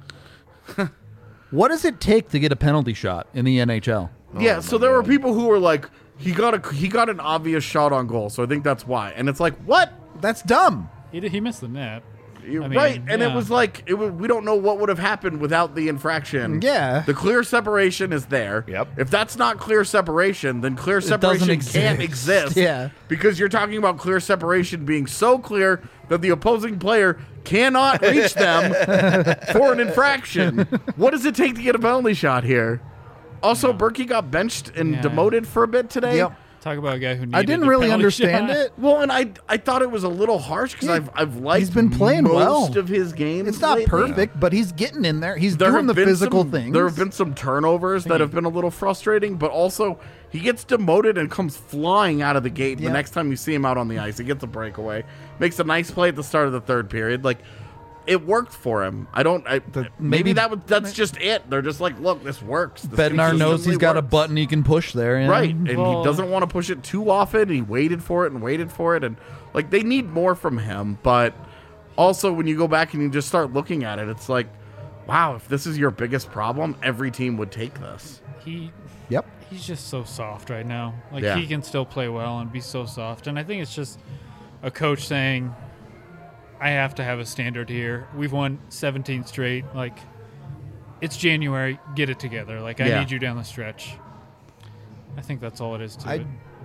What does it take to get a penalty shot in the NHL? Yeah, so there were people who were like, he got an obvious shot on goal, so I think that's why. And it's like, what? That's dumb. He missed the net. You're I mean, right, and yeah. it was like we don't know what would have happened without the infraction. Yeah. the clear separation is there. Yep. If that's not clear separation, then clear doesn't separation can't exist. exist. Yeah. because you're talking about clear separation being so clear that the opposing player cannot reach them for an infraction. What does it take to get a penalty shot here? Also, Berkey got benched and Yeah. demoted for a bit today. Yep. Talk about a guy who needed I didn't a really penalty understand shot. it. Well, and I thought it was a little harsh because Yeah. I've liked He's been playing most well. of his games. It's not lately. perfect, but he's getting in there. He's There doing the have been physical some, things. There have been some turnovers that have been a little frustrating, but also he gets demoted and comes flying out of the gate. Yeah. The next time you see him out on the ice, he gets a breakaway, makes a nice play at the start of the third period. Like, it worked for him. Maybe maybe- that's just it. They're just like, look, this works. This Bednar knows he's consistently got a works. button he can push there. Yeah. Right, and Well- he doesn't want to push it too often. He waited for it, and like they need more from him. But also, when you go back and you just start looking at it, it's like, wow, if this is your biggest problem, every team would take this. Yep. He's just so soft right now. Like Yeah. he can still play well and be so soft. And I think it's just a coach saying, I have to have a standard here. We've won 17 straight. Like, it's January. Get it together. Like, I Yeah. need you down the stretch. I think that's all it is to it.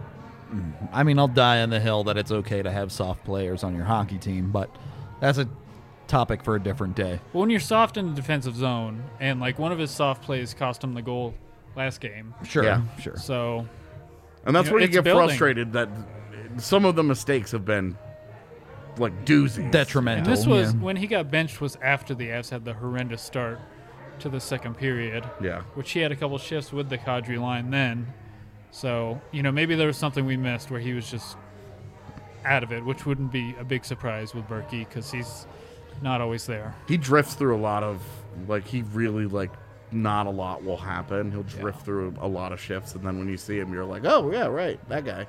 I mean, I'll die on the hill that it's okay to have soft players on your hockey team, but that's a topic for a different day. But when you're soft in the defensive zone, and like one of his soft plays cost him the goal last game. Sure. Yeah. Sure. So And that's You know, where you it's get building. frustrated that some of the mistakes have been like doozies. Detrimental. and this was yeah. when he got benched was after the Avs had the horrendous start to the second period. Yeah. Which he had a couple shifts with the Kadri line then. So, maybe there was something we missed where he was just out of it, which wouldn't be a big surprise with Berkey because he's not always there. He drifts through a lot of he really not a lot will happen. He'll drift through a lot of shifts, and then when you see him, you're like, oh yeah, right, that guy.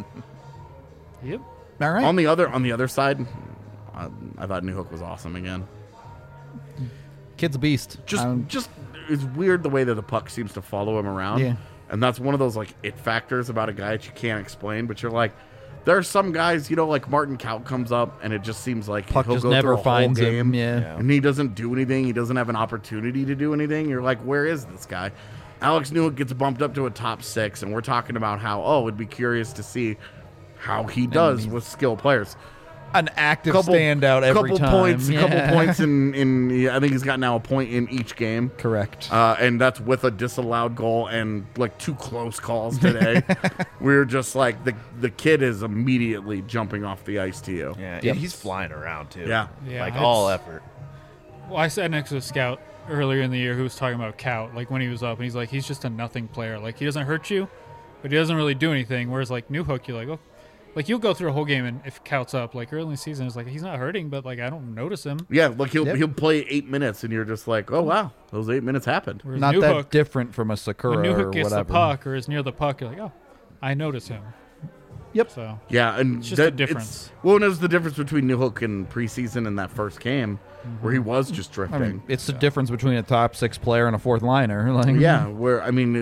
Yep. All right. On the other side, I thought Newhook was awesome again. Kid's a beast. Just it's weird the way that the puck seems to follow him around. Yeah. And that's one of those it factors about a guy that you can't explain, but you're like, there are some guys, like Martin Kaut comes up and it just seems like puck he'll just go never through a finds whole game him. Yeah. and he doesn't do anything. He doesn't have an opportunity to do anything. You're like, where is this guy? Alex Newhook gets bumped up to a top 6, and we're talking about how, it'd be curious to see how he does with skilled players. An active standout every couple time. points, Yeah. couple points in I think he's got now a point in each game. Correct. And that's with a disallowed goal and 2 close calls today. We're just like the kid is immediately jumping off the ice to you. Yeah, Yep. and he's flying around too. Yeah. Yeah, all it's- effort. Well, I sat next to a scout earlier in the year who was talking about Kaut, when he was up, and he's like, he's just a nothing player. Like, he doesn't hurt you, but he doesn't really do anything. Whereas, Newhook, you're like, oh. You'll go through a whole game, and if Kaut's up, early in the season, it's he's not hurting, but, I don't notice him. Yeah, he'll Yep. he'll play 8 minutes, and you're just like, oh wow, those 8 minutes happened. Whereas Not Newhook, that different from a Sakura when or Newhook gets whatever. the puck or is near the puck, you're like, oh, I notice him. Yep. So, Yeah, and It's just a difference. Well, and it was the difference between Newhook in preseason and that first game, where he was just drifting. I mean, it's the difference between a top 6 player and a fourth liner. Yeah, where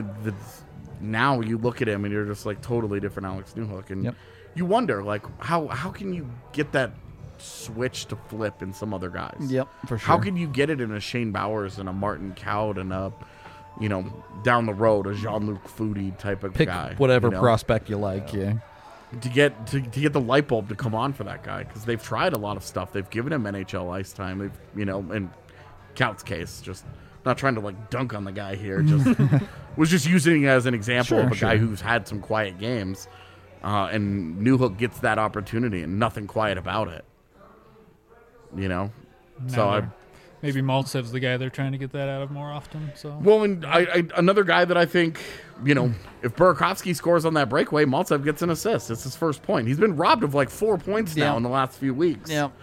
now you look at him and you're just totally different Alex Newhook, and Yep. you wonder how can you get that switch to flip in some other guys? Yep, for sure. How can you get it in a Shane Bowers and a Martin Kaut and a down the road a Jean-Luc Foudy type of pick guy? whatever prospect you like? Yeah. to get the light bulb to come on for that guy, because they've tried a lot of stuff. They've given him NHL ice time. They've in Cout's case just Not trying to like dunk on the guy here. Just was just using it as an example of a guy who's had some quiet games, and Newhook gets that opportunity and nothing quiet about it. You know, Maybe Maltsev's the guy they're trying to get that out of more often. So well, and I another guy that I think, you know, if Burakovsky scores on that breakaway, Maltsev gets an assist. It's his first point. He's been robbed of like 4 points now in the last few weeks. Yeah.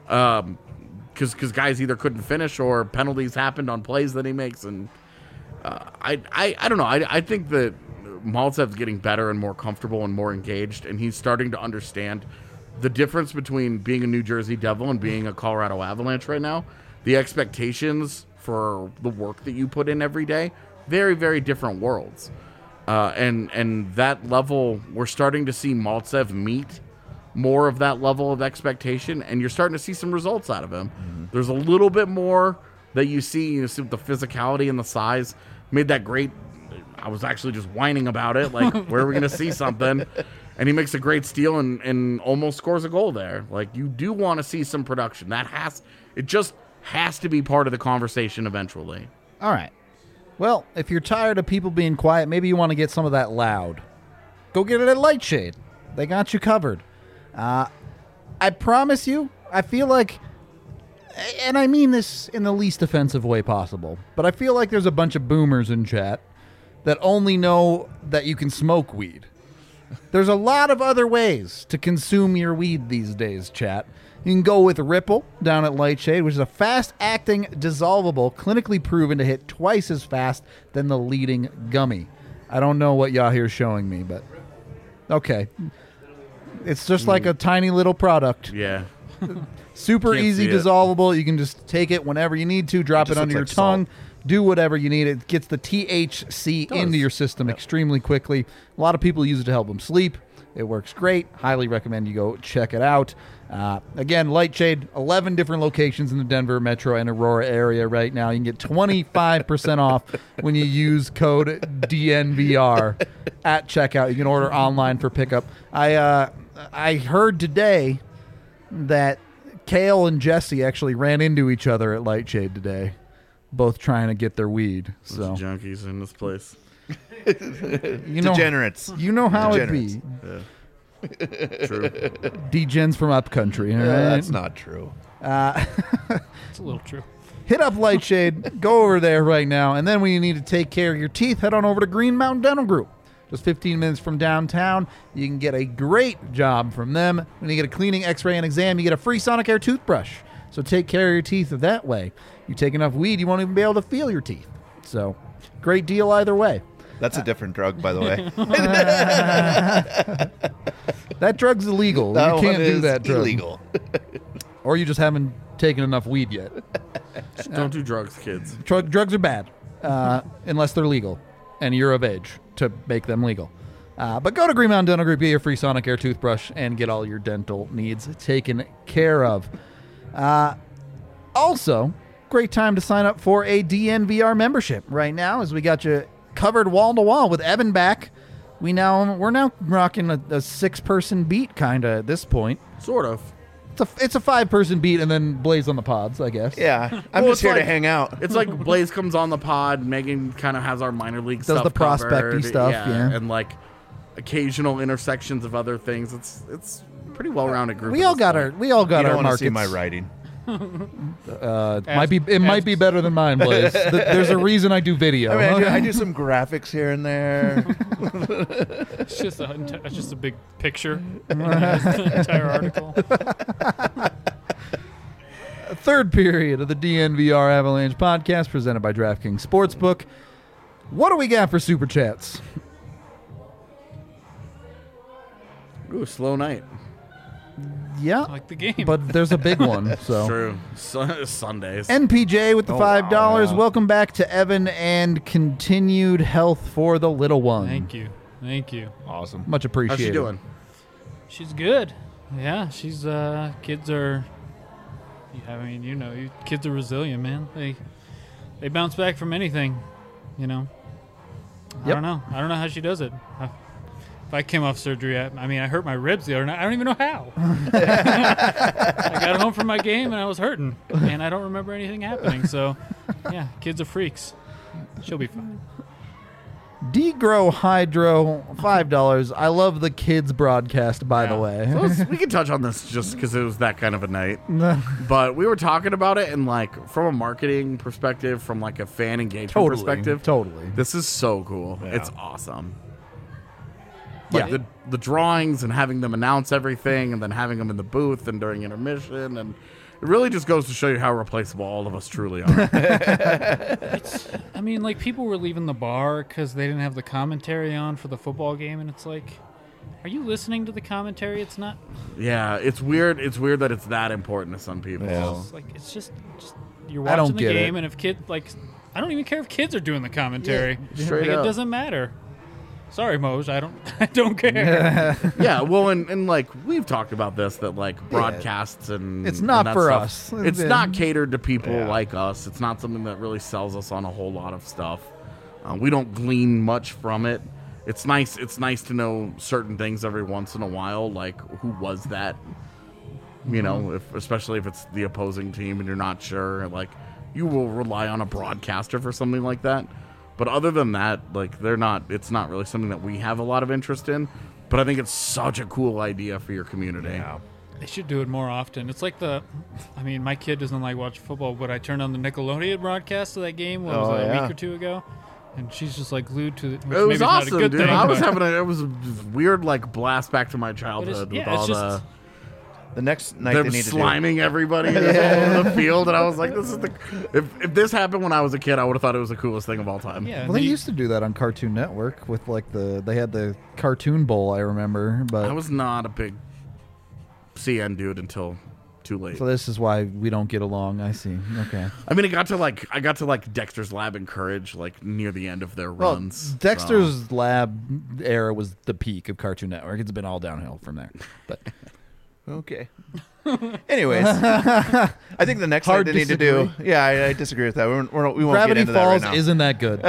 Because guys either couldn't finish or penalties happened on plays that he makes, and I don't know. I think that Maltsev's getting better and more comfortable and more engaged, and he's starting to understand the difference between being a New Jersey Devil and being a Colorado Avalanche right now. The expectations for the work that you put in every day, very, very different worlds. And that level, we're starting to see Maltsev meet more of that level of expectation, and you're starting to see some results out of him. Mm-hmm. There's a little bit more that you see with the physicality and the size. Made that great. I was actually just whining about it, like, where are we going to see something? And he makes a great steal and almost scores a goal there. Like, you do want to see some production. It just has to be part of the conversation eventually. All right. Well, if you're tired of people being quiet, maybe you want to get some of that loud. Go get it at Lightshade. They got you covered. I promise you, I feel like, and I mean this in the least offensive way possible, but I feel like there's a bunch of boomers in chat that only know that you can smoke weed. There's a lot of other ways to consume your weed these days, chat. You can go with Ripple down at Lightshade, which is a fast-acting, dissolvable, clinically proven to hit twice as fast than the leading gummy. I don't know what y'all here is showing me, but okay. It's just like a tiny little product. Yeah. Super Can't easy, see it. dissolvable. You can just take it whenever you need to, drop it just under your looks like tongue, do whatever you need. It gets the THC into your system extremely quickly. A lot of people use it to help them sleep. It works great. Highly recommend you go check it out. Again, Lightshade, 11 different locations in the Denver metro and Aurora area right now. You can get 25% off when you use code DNVR at checkout. You can order online for pickup. I heard today that Kale and Jesse actually ran into each other at Lightshade today, both trying to get their weed. So Junkies in this place. you know, Degenerates. you know how it Degenerates. be. True. Degens from upcountry. All right? That's not true. it's a little true. Hit up Lightshade. Go over there right now. And then when you need to take care of your teeth, head on over to Green Mountain Dental Group. Just 15 minutes from downtown. You can get a great job from them. When you get a cleaning, x-ray, and exam, you get a free Sonicare toothbrush. So take care of your teeth that way. You take enough weed, you won't even be able to feel your teeth. So great deal either way. That's a different drug, by the way. That drug's illegal. That You can't one do is that drug. illegal. Or you just haven't taken enough weed yet. Just don't do drugs, kids. Drugs are bad unless they're legal and you're of age to make them legal. But go to Green Mountain Dental Group, get your free Sonicare toothbrush, and get all your dental needs taken care of. Also, great time to sign up for a DNVR membership right now, as we got you covered wall to wall with Evan back. We're now rocking a 6-person beat kind of at this point. Sort of. It's a 5-person beat and then Blaze on the pods, I guess. Yeah, I'm Well, just it's here to like- hang out. It's like Blaze comes on the pod. Megan kind of has our minor league Does stuff the prospecty covered, stuff, yeah. And like occasional intersections of other things. It's a pretty well-rounded group. We at all this got point. You our don't want to markets. see my writing. Might be better than mine, Blaze. There's a reason I do video. I mean, I do some graphics here and there. It's just a big picture. The entire article. Third period of the DNVR Avalanche podcast presented by DraftKings Sportsbook. What do we got for super chats? Ooh, slow night. Yeah, Like the game. but there's a big one. So True. Sundays. NPJ with the $5. wow. Welcome back to Evan and continued health for the little one. Thank you. Thank you. Awesome. Much appreciated. How's she doing? She's good. Yeah, she's kids are kids are resilient, man. They bounce back from anything, you know. Yep. I don't know how she does it. If I came off surgery, I hurt my ribs the other night. I don't even know how. I got home from my game and I was hurting, and I don't remember anything happening. So Yeah, kids are freaks. She'll be fine. Degro Hydro, $5. I love the kids broadcast, by the Yeah. way. We can touch on this just because it was that kind of a night. But we were talking about it, and like from a marketing perspective, from like a fan engagement perspective, Totally. this is so cool. Yeah. It's awesome. Like Yeah. the drawings and having them announce everything, and then having them in the booth and during intermission, and it really just goes to show you how replaceable all of us truly are. I mean, like, people were leaving the bar because they didn't have the commentary on for the football game, and it's like, are you listening to the commentary? It's not. Yeah, it's weird. It's weird that it's that important to some people. Yeah. It's like, it's just you're I don't watching the get game, it. and if I don't even care if kids are doing the commentary. straight Like, up. it doesn't matter. Sorry, Moj, I don't care. Yeah, well, and like we've talked about this, that like broadcasts and It's not and that for stuff, us. It's Yeah. not catered to people Yeah. like us. It's not something that really sells us on a whole lot of stuff. We don't glean much from it. It's nice. It's nice to know certain things every once in a while, like who was that. You know, especially if it's the opposing team and you're not sure, like you will rely on a broadcaster for something like that. But other than that, like it's not really something that we have a lot of interest in. But I think it's such a cool idea for your community. Yeah. They should do it more often. It's like my kid doesn't like watching football, but I turned on the Nickelodeon broadcast of that game a yeah. week or two ago, and she's just like glued to it. Which It was maybe awesome, is not a good dude. thing, I was but- having it was a weird like blast back to my childhood with yeah, all it's just- The next night them they need to do. sliming everybody all over the field, and I was like, "This is the." If this happened when I was a kid, I would have thought it was the coolest thing of all time. Yeah, Well, they used to do that on Cartoon Network with like they had the Cartoon Bowl, I remember. But I was not a big CN dude until too late. so this is why we don't get along. I see. Okay. I mean, I got to like Dexter's Lab and Courage like near the end of their Well, runs. Dexter's Lab era was the peak of Cartoon Network. It's been all downhill from there. But Okay. Anyways, I think the next Hard night they need to do. Yeah, I disagree with that. We won't Gravity get into that Falls right now. isn't that good.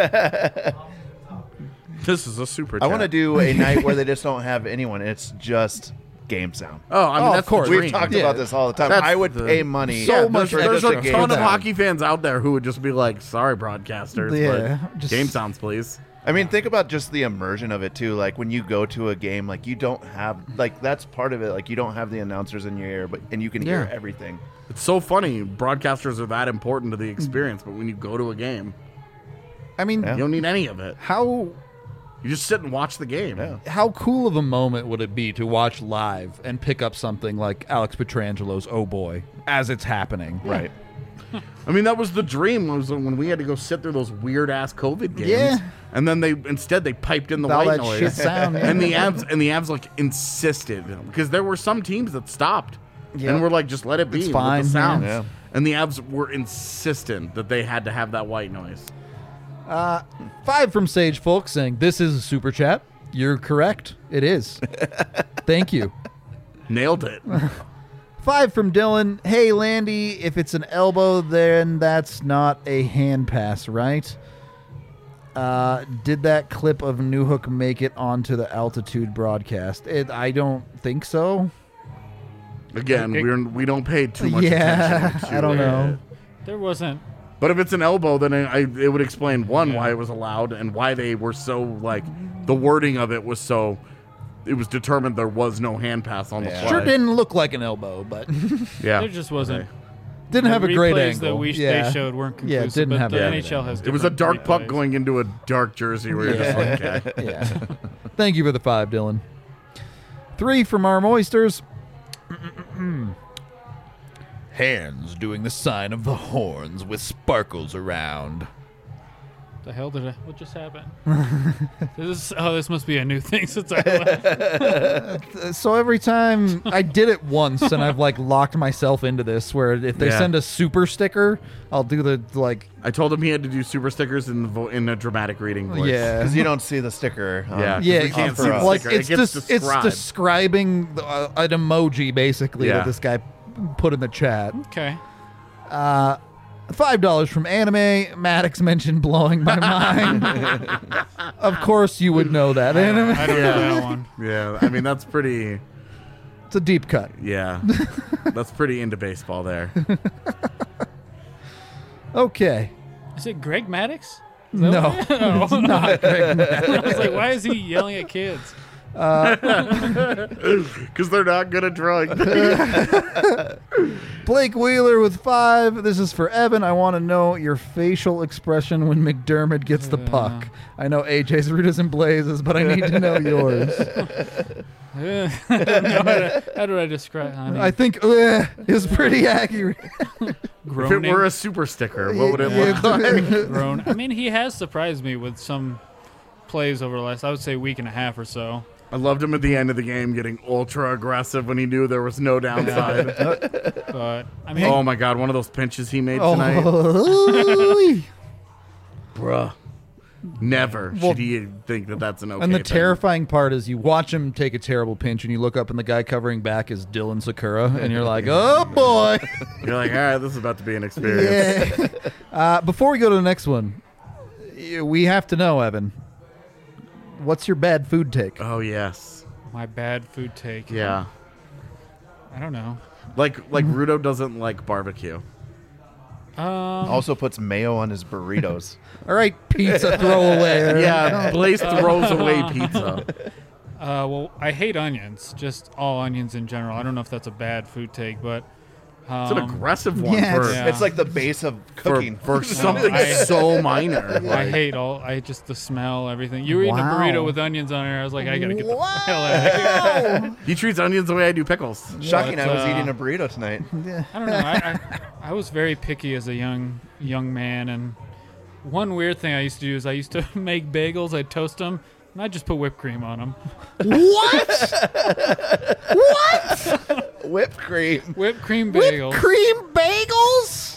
This is a super. I want to chat. do a night where they just don't have anyone. It's just game sound. Oh, I mean, Oh, that's of course. the We've dream. talked Yeah. about this all the time. That's I would the- pay money. So much There's extra a for ton of that. hockey fans out there who would just be like, "Sorry, broadcasters, Yeah, but just- game sounds, please." I mean, think about just the immersion of it too. Like when you go to a game, like you don't have like that's part of it. Like you don't have the announcers in your ear, and you can hear Yeah. everything. It's so funny. Broadcasters are that important to the experience, but when you go to a game, I mean, Yeah. you don't need any of it. how You just sit and watch the game. Yeah. how cool of a moment would it be to watch live and pick up something like Alex Petrangelo's "Oh Boy" as it's happening? Right. I mean, that was the dream. Was when we had to go sit through those weird ass COVID games. Yeah. And then they piped in the All white that noise. shit sound, yeah. And the Avs like insisted because there were some teams that stopped Yeah. and were like, just let it be It's with fine, the sounds. yeah. And the Avs were insistent that they had to have that white noise. 5 from Sage Folk saying, "This is a super chat." You're correct. It is. Thank you. Nailed it. 5 from Dylan. "Hey, Landy, if it's an elbow, then that's not a hand pass, right? Did that clip of Newhook make it onto the altitude broadcast? I don't think so. Again, we don't pay too much Yeah, attention to I don't it. know. There wasn't. But if it's an elbow, then it would explain why it was allowed and why they were so like the wording of it was so. It was determined there was no hand pass on the fly. Sure didn't look like an elbow, but Yeah, There just wasn't. didn't have a The great replays angle. that Yeah. they showed weren't Yeah, conclusive. it didn't but have the a- NHL has. it was a dark different puck replays. going into a dark jersey where you're just like, okay. Yeah. Thank you for the 5, Dylan. 3 from Arm Oysters. Hands doing the sign of the horns with sparkles around. The hell did what just happened? This must be a new thing since I left. So every time I did it once, and I've like locked myself into this, where if they Yeah. send a super sticker, I'll do the like, I told him he had to do super stickers in a dramatic reading voice. yeah, Because you don't see the sticker. Yeah. yeah. we can't it's see the like sticker. It it's gets it's described. describing an emoji basically Yeah. that this guy put in the chat. Okay. $5 from Anime. Maddox mentioned blowing my mind. Of course, you would know that. Anime. I don't know that one. Yeah, I mean that's pretty. It's a deep cut. Yeah, that's pretty into baseball there. Okay. Is it Greg Maddox? No, it's not Greg Maddox. I was like, why is he yelling at kids? Because they're not good at drawing. Blake Wheeler with 5. This is for Evan. I want to know your facial expression when McDermott gets the puck. I know AJ's root is in blazes, but I need to know yours. I don't know how do I describe? I mean, I think is pretty accurate. If it groaning, were a super sticker, what would it look like? groan. I mean, he has surprised me with some plays over the last, I would say, week and a half or so. I loved him at the end of the game getting ultra aggressive when he knew there was no downside. But I mean, Oh my god, one of those pinches he made tonight. Oh. Bruh. Never Well, should he think that that's an okay And the thing. terrifying part is you watch him take a terrible pinch and you look up and the guy covering back is Dylan Sakura and you're like, oh boy. You're like, all right, this is about to be an experience. Yeah. Before we go to the next one, we have to know, Evan, what's your bad food take? Oh, yes. my bad food take. Yeah. I don't know. Like Rudo doesn't like barbecue. Also puts mayo on his burritos. All right, pizza throwaway. Yeah, Blaze throws away pizza. Well, I hate onions, just all onions in general. I don't know if that's a bad food take, but It's an aggressive one yeah, for, Yeah. It's like the base of cooking. for something I- so minor. I Like, hate I just the smell, everything. You were eating a Wow. burrito with onions on it. I was like, I gotta get the hell out of here. he treats onions the way I do pickles. Shocking, But, I was eating a burrito tonight. I don't know. I was very picky as a young man, and one weird thing I used to do is I used to make bagels. I'd toast them, and I'd just put whipped cream on them. Whipped cream. Whipped cream bagels. Cream bagels?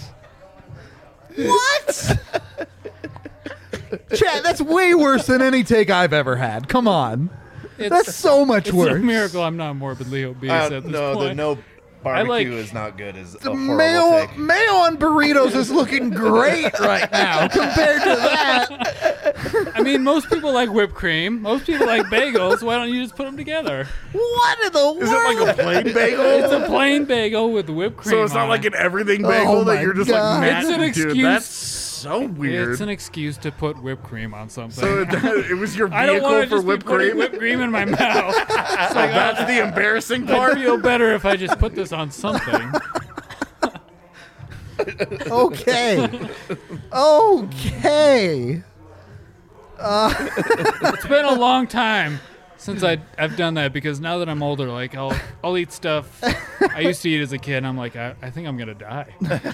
What? Chad, that's way worse than any take I've ever had. Come on. That's so much It's worse. a miracle I'm not morbidly obese at this No, point. the no barbecue like- is not good. Is a The horrible take. mayo on burritos is looking great right now compared to that. I mean, most people like whipped cream. Most people like bagels. Why don't you just put them together? What in the world? Is it like a plain bagel? It's a plain bagel with whipped cream. So it's not on like it. an everything bagel Oh that my you're just God. like, It's an dude, excuse. that's so weird. It's an excuse to put whipped cream on something. So it was your I don't vehicle want to for just whipped be putting cream? whipped cream in my mouth. It's like, That's the embarrassing I part. feel better if I just put this on something. Okay. Okay. It's been a long time since I've done that, because now that I'm older, like I'll eat stuff I used to eat as a kid, and I'm like, I think I'm gonna die.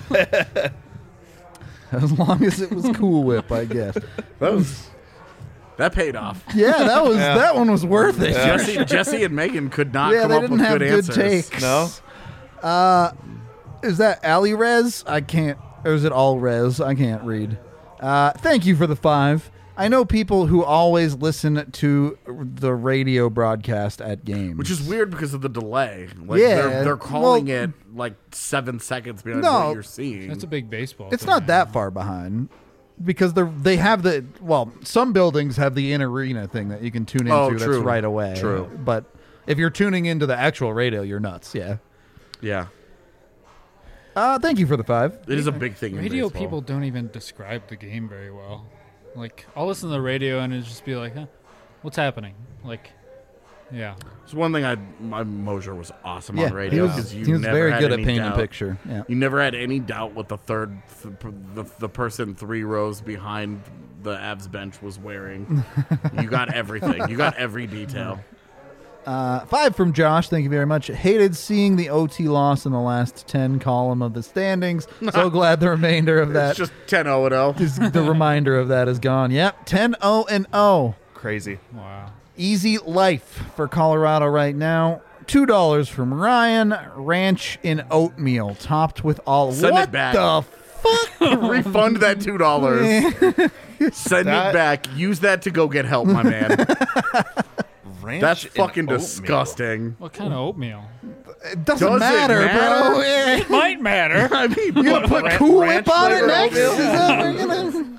As long as it was Cool Whip, I guess. That paid off. Yeah, that one was worth it. Jesse and Megan could not Yeah, come they up didn't with have good good answers. takes. No? Is that Ali Rez? I can't. Or is it All Rez? I can't read. Thank you for the 5. I know people who always listen to the radio broadcast at games. Which is weird because of the delay. Like Yeah, they're calling well- it like 7 seconds behind No. what you're seeing. That's a big baseball. It's thing, not man. that far behind. Because they have some buildings have the in arena thing that you can tune into. Oh, that's true. right away. True. But if you're tuning into the actual radio, you're nuts. Yeah. Yeah. Thank you for the 5. It is a big thing in Radio baseball. people don't even describe the game very well. Like, I'll listen to the radio and it'll just be like, huh, what's happening? Like, yeah. It's one thing my Mosier was awesome Yeah, on radio he because you was never very had good at any painting doubt. a picture. Yeah. You never had any doubt what the the person 3 rows behind the Avs bench was wearing. You got everything. You got every detail. 5 from Josh. Thank you very much. Hated seeing the OT loss in the last 10 column of the standings. So glad the remainder of that It's just 10-0-0. is the reminder of that is gone. Yep, 10-0-0. Crazy. Wow. Easy life for Colorado right now. $2 from Ryan. Ranch in oatmeal topped with all. Send what it back. the fuck? Refund that $2. Send That- it back. Use that to go get help, my man. Ranch That's and fucking oatmeal. disgusting. What kind of oatmeal? It doesn't Does it matter, bro. matter? Eh. Might matter. I mean, You gonna put Ranch Cool Whip on it flavor next? oatmeal? Is that what we're gonna...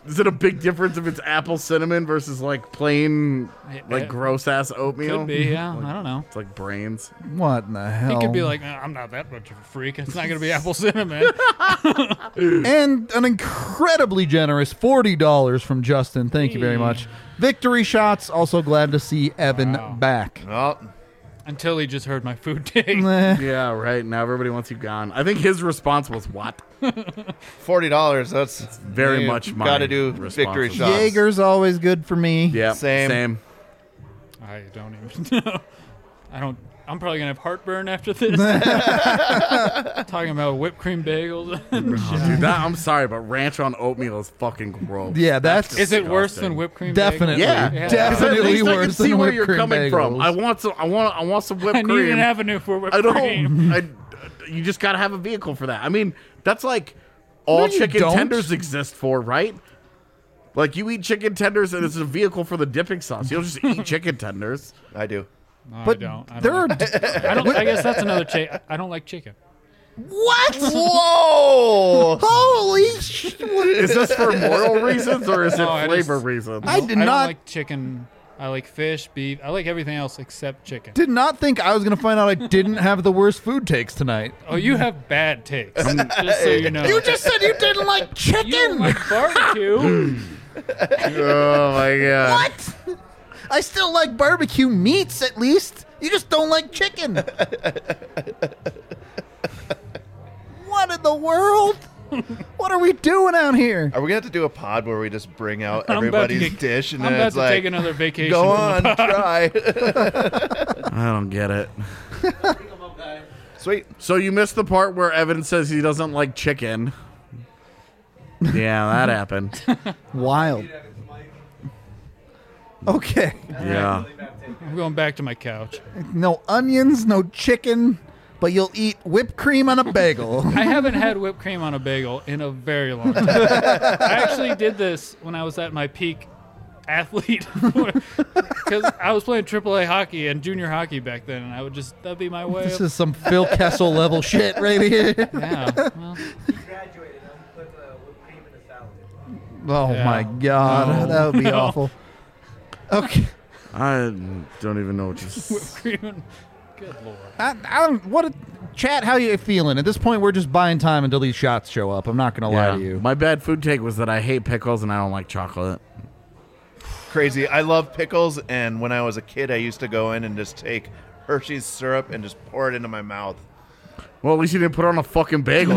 Is it a big difference if it's apple cinnamon versus like plain, like It gross ass oatmeal? could be, yeah. I don't know. It's like brains. What in the hell? He could be like, I'm not that much of a freak. It's not going to be apple cinnamon. And an incredibly generous $40 from Justin. Thank you very much. Victory shots. Also glad to see Evan Wow. back. Well, Until he just heard my food take. Yeah, right. Now everybody wants you gone. I think his response was what? $40. That's Very much my Gotta do response victory was- shots. Jaeger's always good for me. Yeah, Same. I don't even know. I'm probably going to have heartburn after this. Talking about whipped cream bagels. and shit. Dude, that, I'm sorry, but ranch on oatmeal is fucking gross. Yeah, that's Is it worse disgusting. than whipped cream definitely, Yeah. bagels? definitely At least I can worse see than where whipped you're cream coming from. bagels. I want some whipped I need cream. an avenue for whipped I cream. don't. You just gotta have a vehicle for that. I mean, that's like all No, you chicken don't. tenders exist for, right? Like you eat chicken tenders and it's a vehicle for the dipping sauce. You don't just eat chicken tenders. I do. No, But I don't. I there don't are like, I guess that's another I don't like chicken. what? Whoa! Holy shit! Is this for moral reasons or is it No, I flavor just- reasons? I did don't not like chicken. I like fish, beef. I like everything else except chicken. did not think I was going to find out I didn't have the worst food takes tonight. Oh, you have bad takes. Just so you know. You just said you didn't like You don't chicken. like barbecue. Oh my god! What? I still like barbecue meats at least. You just don't like chicken. What in the world? What are we doing out here? Are we gonna have to do a pod where we just bring out I'm about to everybody's get- dish and I'm then about it's to like, take another vacation. go from the on, pod. try. I don't get it. Sweet. So you missed the part where Evan says he doesn't like chicken. Yeah, that happened. Wild. Okay. Yeah. I'm going back to my couch. No onions, no chicken, but you'll eat whipped cream on a bagel. I haven't had whipped cream on a bagel in a very long time. I actually did this when I was at my peak athlete because I was playing AAA hockey and junior hockey back then, and I would just that'd be my way. This Of, is some Phil Kessel level shit right here. yeah. Well, Graduated. I'm put whipped cream in the salad. Oh Yeah. my god, No. that would be No. awful. Okay. I don't even know what you. whipped cream. And, good lord. I don't. Chat? How you feeling? At this point, we're just buying time until these shots show up. I'm not gonna lie to you. My bad food take was that I hate pickles and I don't like chocolate. Crazy. I love pickles, and when I was a kid, I used to go in and just take Hershey's syrup and just pour it into my mouth. Well, at least you didn't put it on a fucking bagel.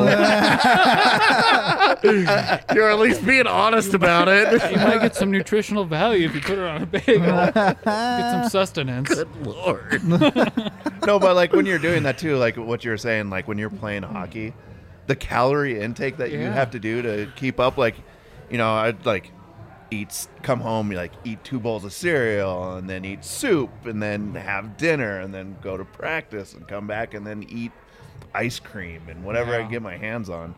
You're at least being honest about it. You might get some nutritional value if you put it on a bagel. Get some sustenance. Lord. No, but like when you're doing that too, like what you're saying, like when you're playing hockey, the calorie intake that you Yeah. have to do to keep up, like, you know, I'd like come home, like eat 2 bowls of cereal and then eat soup and then have dinner and then go to practice and come back and then eat ice cream and whatever I Yeah. can get my hands on.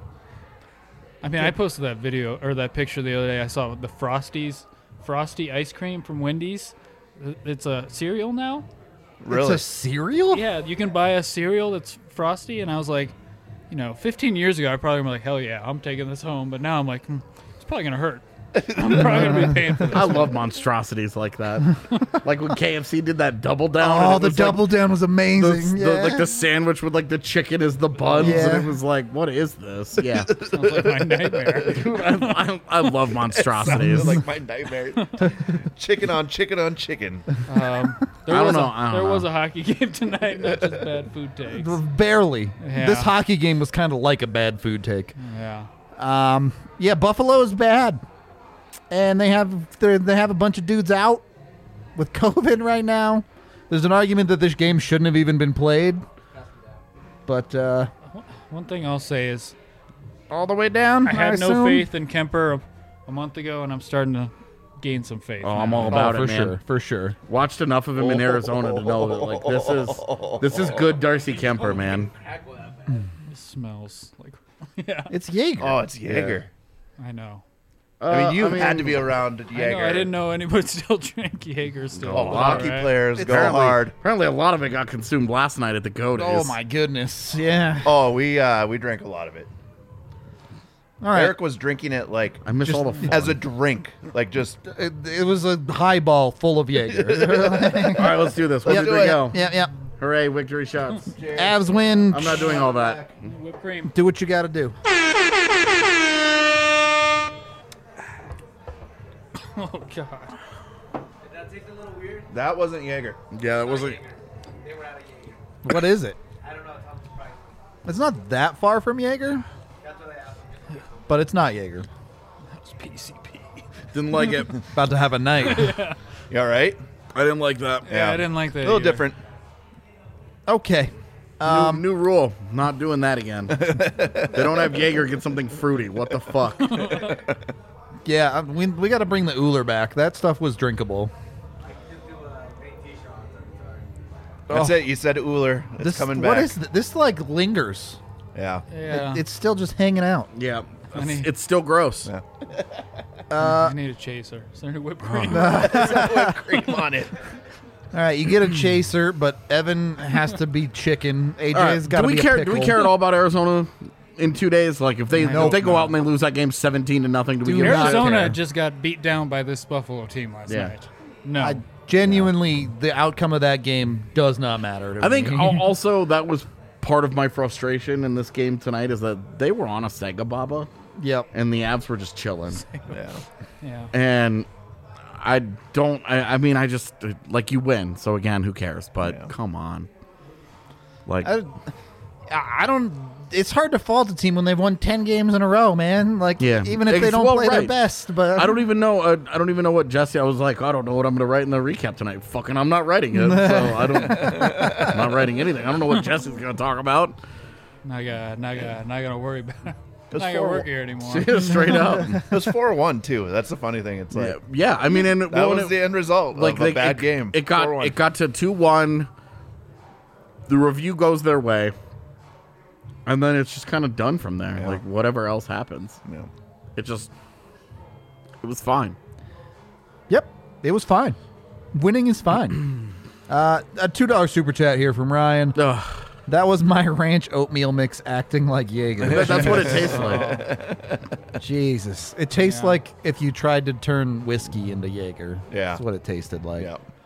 I mean, I posted that video or that picture the other day. I saw the Frosty ice cream from Wendy's. It's a cereal now. Really? It's a cereal? Yeah, you can buy a cereal that's Frosty, and I was like, 15 years ago, I probably was like, hell yeah, I'm taking this home. But now I'm like, it's probably gonna hurt. I'm probably gonna be paying for this. I love monstrosities like that. Like when KFC did that double down. and Oh, it the was double down was like amazing. like the sandwich with like the chicken as the buns, Yeah. and it was like, what is this? Yeah, Sounds like my nightmare. I love monstrosities. It's like my nightmare. Chicken on chicken on chicken. There I was don't know. There was a hockey game tonight, not just bad food takes. Barely. Yeah. This hockey game was kind of like a bad food take. Yeah. Yeah, Buffalo is bad, and they have a bunch of dudes out with COVID right now. There's an argument that this game shouldn't have even been played, but One thing I'll say is all the way down. I had no assume? faith in Kemper a month ago, and I'm starting to gain some faith. Oh, I'm now. all about for it, man. sure, for sure. Watched enough of him in Arizona to know that like this is good Darcy Kemper, man. It smells like. Yeah, It's Jaeger. Oh, it's Jaeger. I know. I mean, you had to be around I Jaeger. know. I didn't know anyone still drank Jaeger still. All the All hockey right. players go Apparently- hard. Apparently, a lot of it got consumed last night at the Go Days. Oh my goodness. Yeah. Oh, we drank a lot of it. All right. Eric was drinking it like I miss all the fun. as a drink, like just It was a highball full of Jaeger. All right, let's do this. Where Yep. did we go? Yep. Hooray, victory shots. Avs win. I'm not doing all that. Whipped cream. Do what you got to do. Oh God. Did that taste a little weird? that wasn't Jaeger. Yeah, that wasn't. They were out of Jaeger. What is it? I don't know. I'm surprised. It's not that far from Jaeger, That's what I asked him. but it's not Jaeger. That was PCP. Didn't like it. About to have a night. You all right? I didn't like that. Yeah, I didn't like that. A little either. different. Okay. New rule. Not doing that again. They don't have Jaeger. Get something fruity. What the fuck? Yeah, we got to bring the Uller back. That stuff was drinkable. I can just do a paint t-shirt on it. That's it. You said Uller. It's coming back. What is this? Like lingers. Yeah. Yeah. It's still just hanging out. Yeah. Funny. It's still gross. Yeah. I need a chaser. Is there any whipped cream? Cream on it. All right, you get a chaser, but Evan has to be chicken. AJ's All right, got to do we be a care? pickle. Do we care at all about Arizona in 2 days? Like if they Nope. go out and they lose that game 17-0, do we Dude, give a shit? Arizona care. just got beat down by this Buffalo team last Yeah. night. No. I genuinely, the outcome of that game does not matter to I think me. also that was part of my frustration in this game tonight is that they were on a Sega Baba Yep. and the Avs were just chilling. Yeah. yeah. And I mean, I just, like, you win. So, again, who cares? But Yeah. come on. Like, I don't. It's hard to fault a team when they've won 10 games in a row, man. Like, Yeah. even if they don't Well, play their right. best. But I don't even know. I don't even know what Jesse. I was like, I don't know what I'm going to write in the recap tonight. Fucking, I'm not writing it. So I don't. I'm not writing anything. I don't know what Jesse's going to talk about. Not gonna worry about it. It's Not gonna for- work here anymore. Straight up. It was 4-1 too. That's the funny thing. It's like Yeah. I mean, and that when was it- the end result of a bad game. It got 4-1. to 2-1. The review goes their way, and then it's just kind of done from there. Yeah. Like whatever else happens, Yeah. it was fine. Yep, it was fine. Winning is fine. A $2 super chat here from Ryan. Ugh. That was my ranch oatmeal mix acting like Jaeger. That's what it tastes like. Jesus. It tastes like if you tried to turn whiskey into Jaeger. Yeah. That's what it tasted like.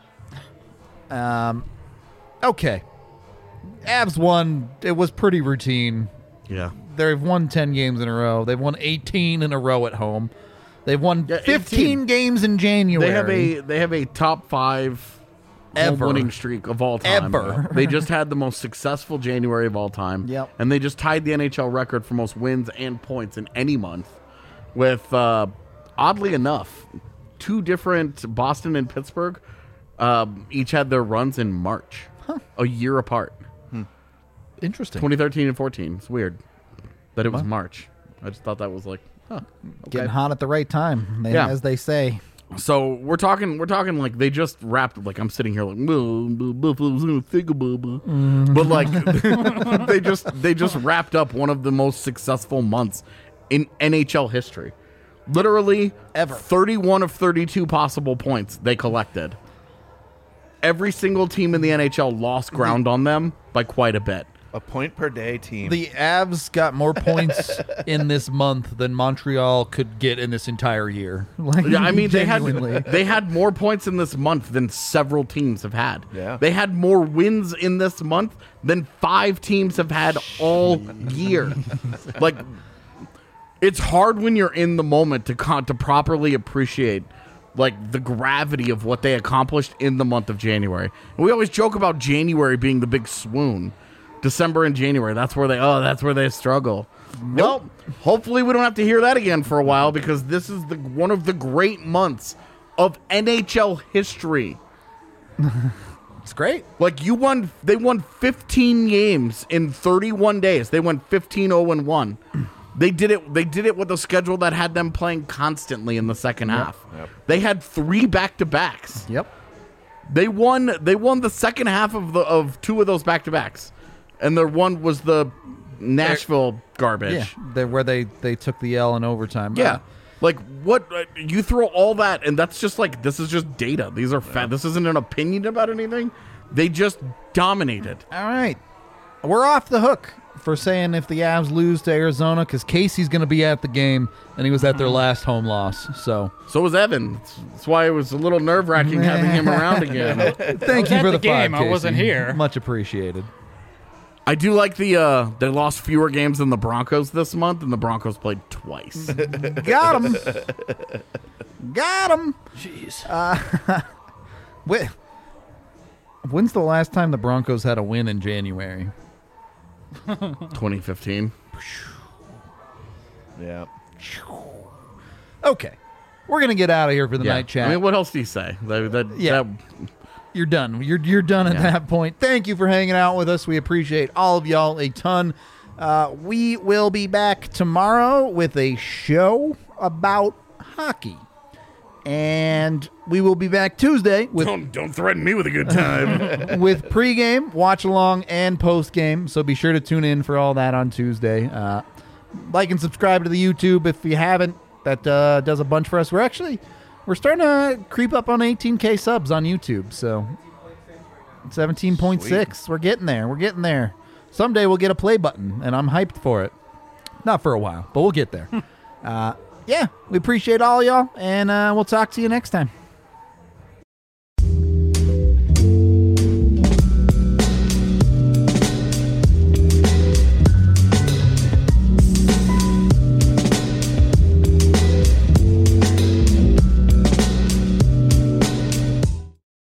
Yeah. Okay. Avs won. It was pretty routine. Yeah. They've won 10 games in a row. They've won 18 in a row at home. They've won Yeah, 15 18. games in January. They have a top 5 Ever. winning streak of all time. Ever. They just had the most successful January of all time. Yep. And they just tied the NHL record for most wins and points in any month with, oddly enough, 2 different, Boston and Pittsburgh, each had their runs in March, a year apart. Interesting. 2013 and 14. It's weird that it was March. I just thought that was like, Getting hot at the right time, Yeah. as they say. So we're talking like they just wrapped, like I'm sitting here like but like they just wrapped up one of the most successful months in NHL history. Literally Ever. 31 of 32 possible points they collected. Every single team in the NHL lost ground on them by quite a bit. A point per day team. The Avs got more points in this month than Montreal could get in this entire year. Like, Yeah, I mean genuinely. they had more points in this month than several teams have had. Yeah. They had more wins in this month than 5 teams have had all year. Like it's hard when you're in the moment to properly appreciate like the gravity of what they accomplished in the month of January. And we always joke about January being the big swoon. December and January, that's where they struggle. Well, hopefully we don't have to hear that again for a while because this is one of the great months of NHL history. It's great. Like they won 15 games in 31 days. They went 15-0-1. They did it with a schedule that had them playing constantly in the second half. Yep. They had 3 back-to-backs. Yep. They won the second half of 2 of those back-to-backs. And their one was the Nashville garbage. Yeah, where they took the L in overtime. Yeah. Like what you throw all that and that's just like this is just data. These are this isn't an opinion about anything. They just dominated. All right. We're off the hook. for saying if the Avs lose to Arizona, because Casey's going to be at the game, and he was at their last home loss. So was Evan. That's why it was a little nerve-wracking having him around again. thank you at for the the five, game. I wasn't Casey. here. Much appreciated. I do like they lost fewer games than the Broncos this month, and the Broncos played twice. Got him. Got him. Jeez. When's the last time the Broncos had a win in January? 2015. Yeah. Okay. We're going to get out of here for the night chat. I mean, what else do you say? Yeah. You're done. You're done at that point. Thank you for hanging out with us. We appreciate all of y'all a ton. We will be back tomorrow with a show about hockey. And we will be back Tuesday with Don't threaten me with a good time. with pregame, watch along, and postgame. So be sure to tune in for all that on Tuesday. Like and subscribe to the YouTube if you haven't. That does a bunch for us. We're starting to creep up on 18K subs on YouTube. So 17.6. We're getting there. We're getting there. Someday we'll get a play button, and I'm hyped for it. Not for a while, but we'll get there. Yeah, we appreciate all y'all, and we'll talk to you next time.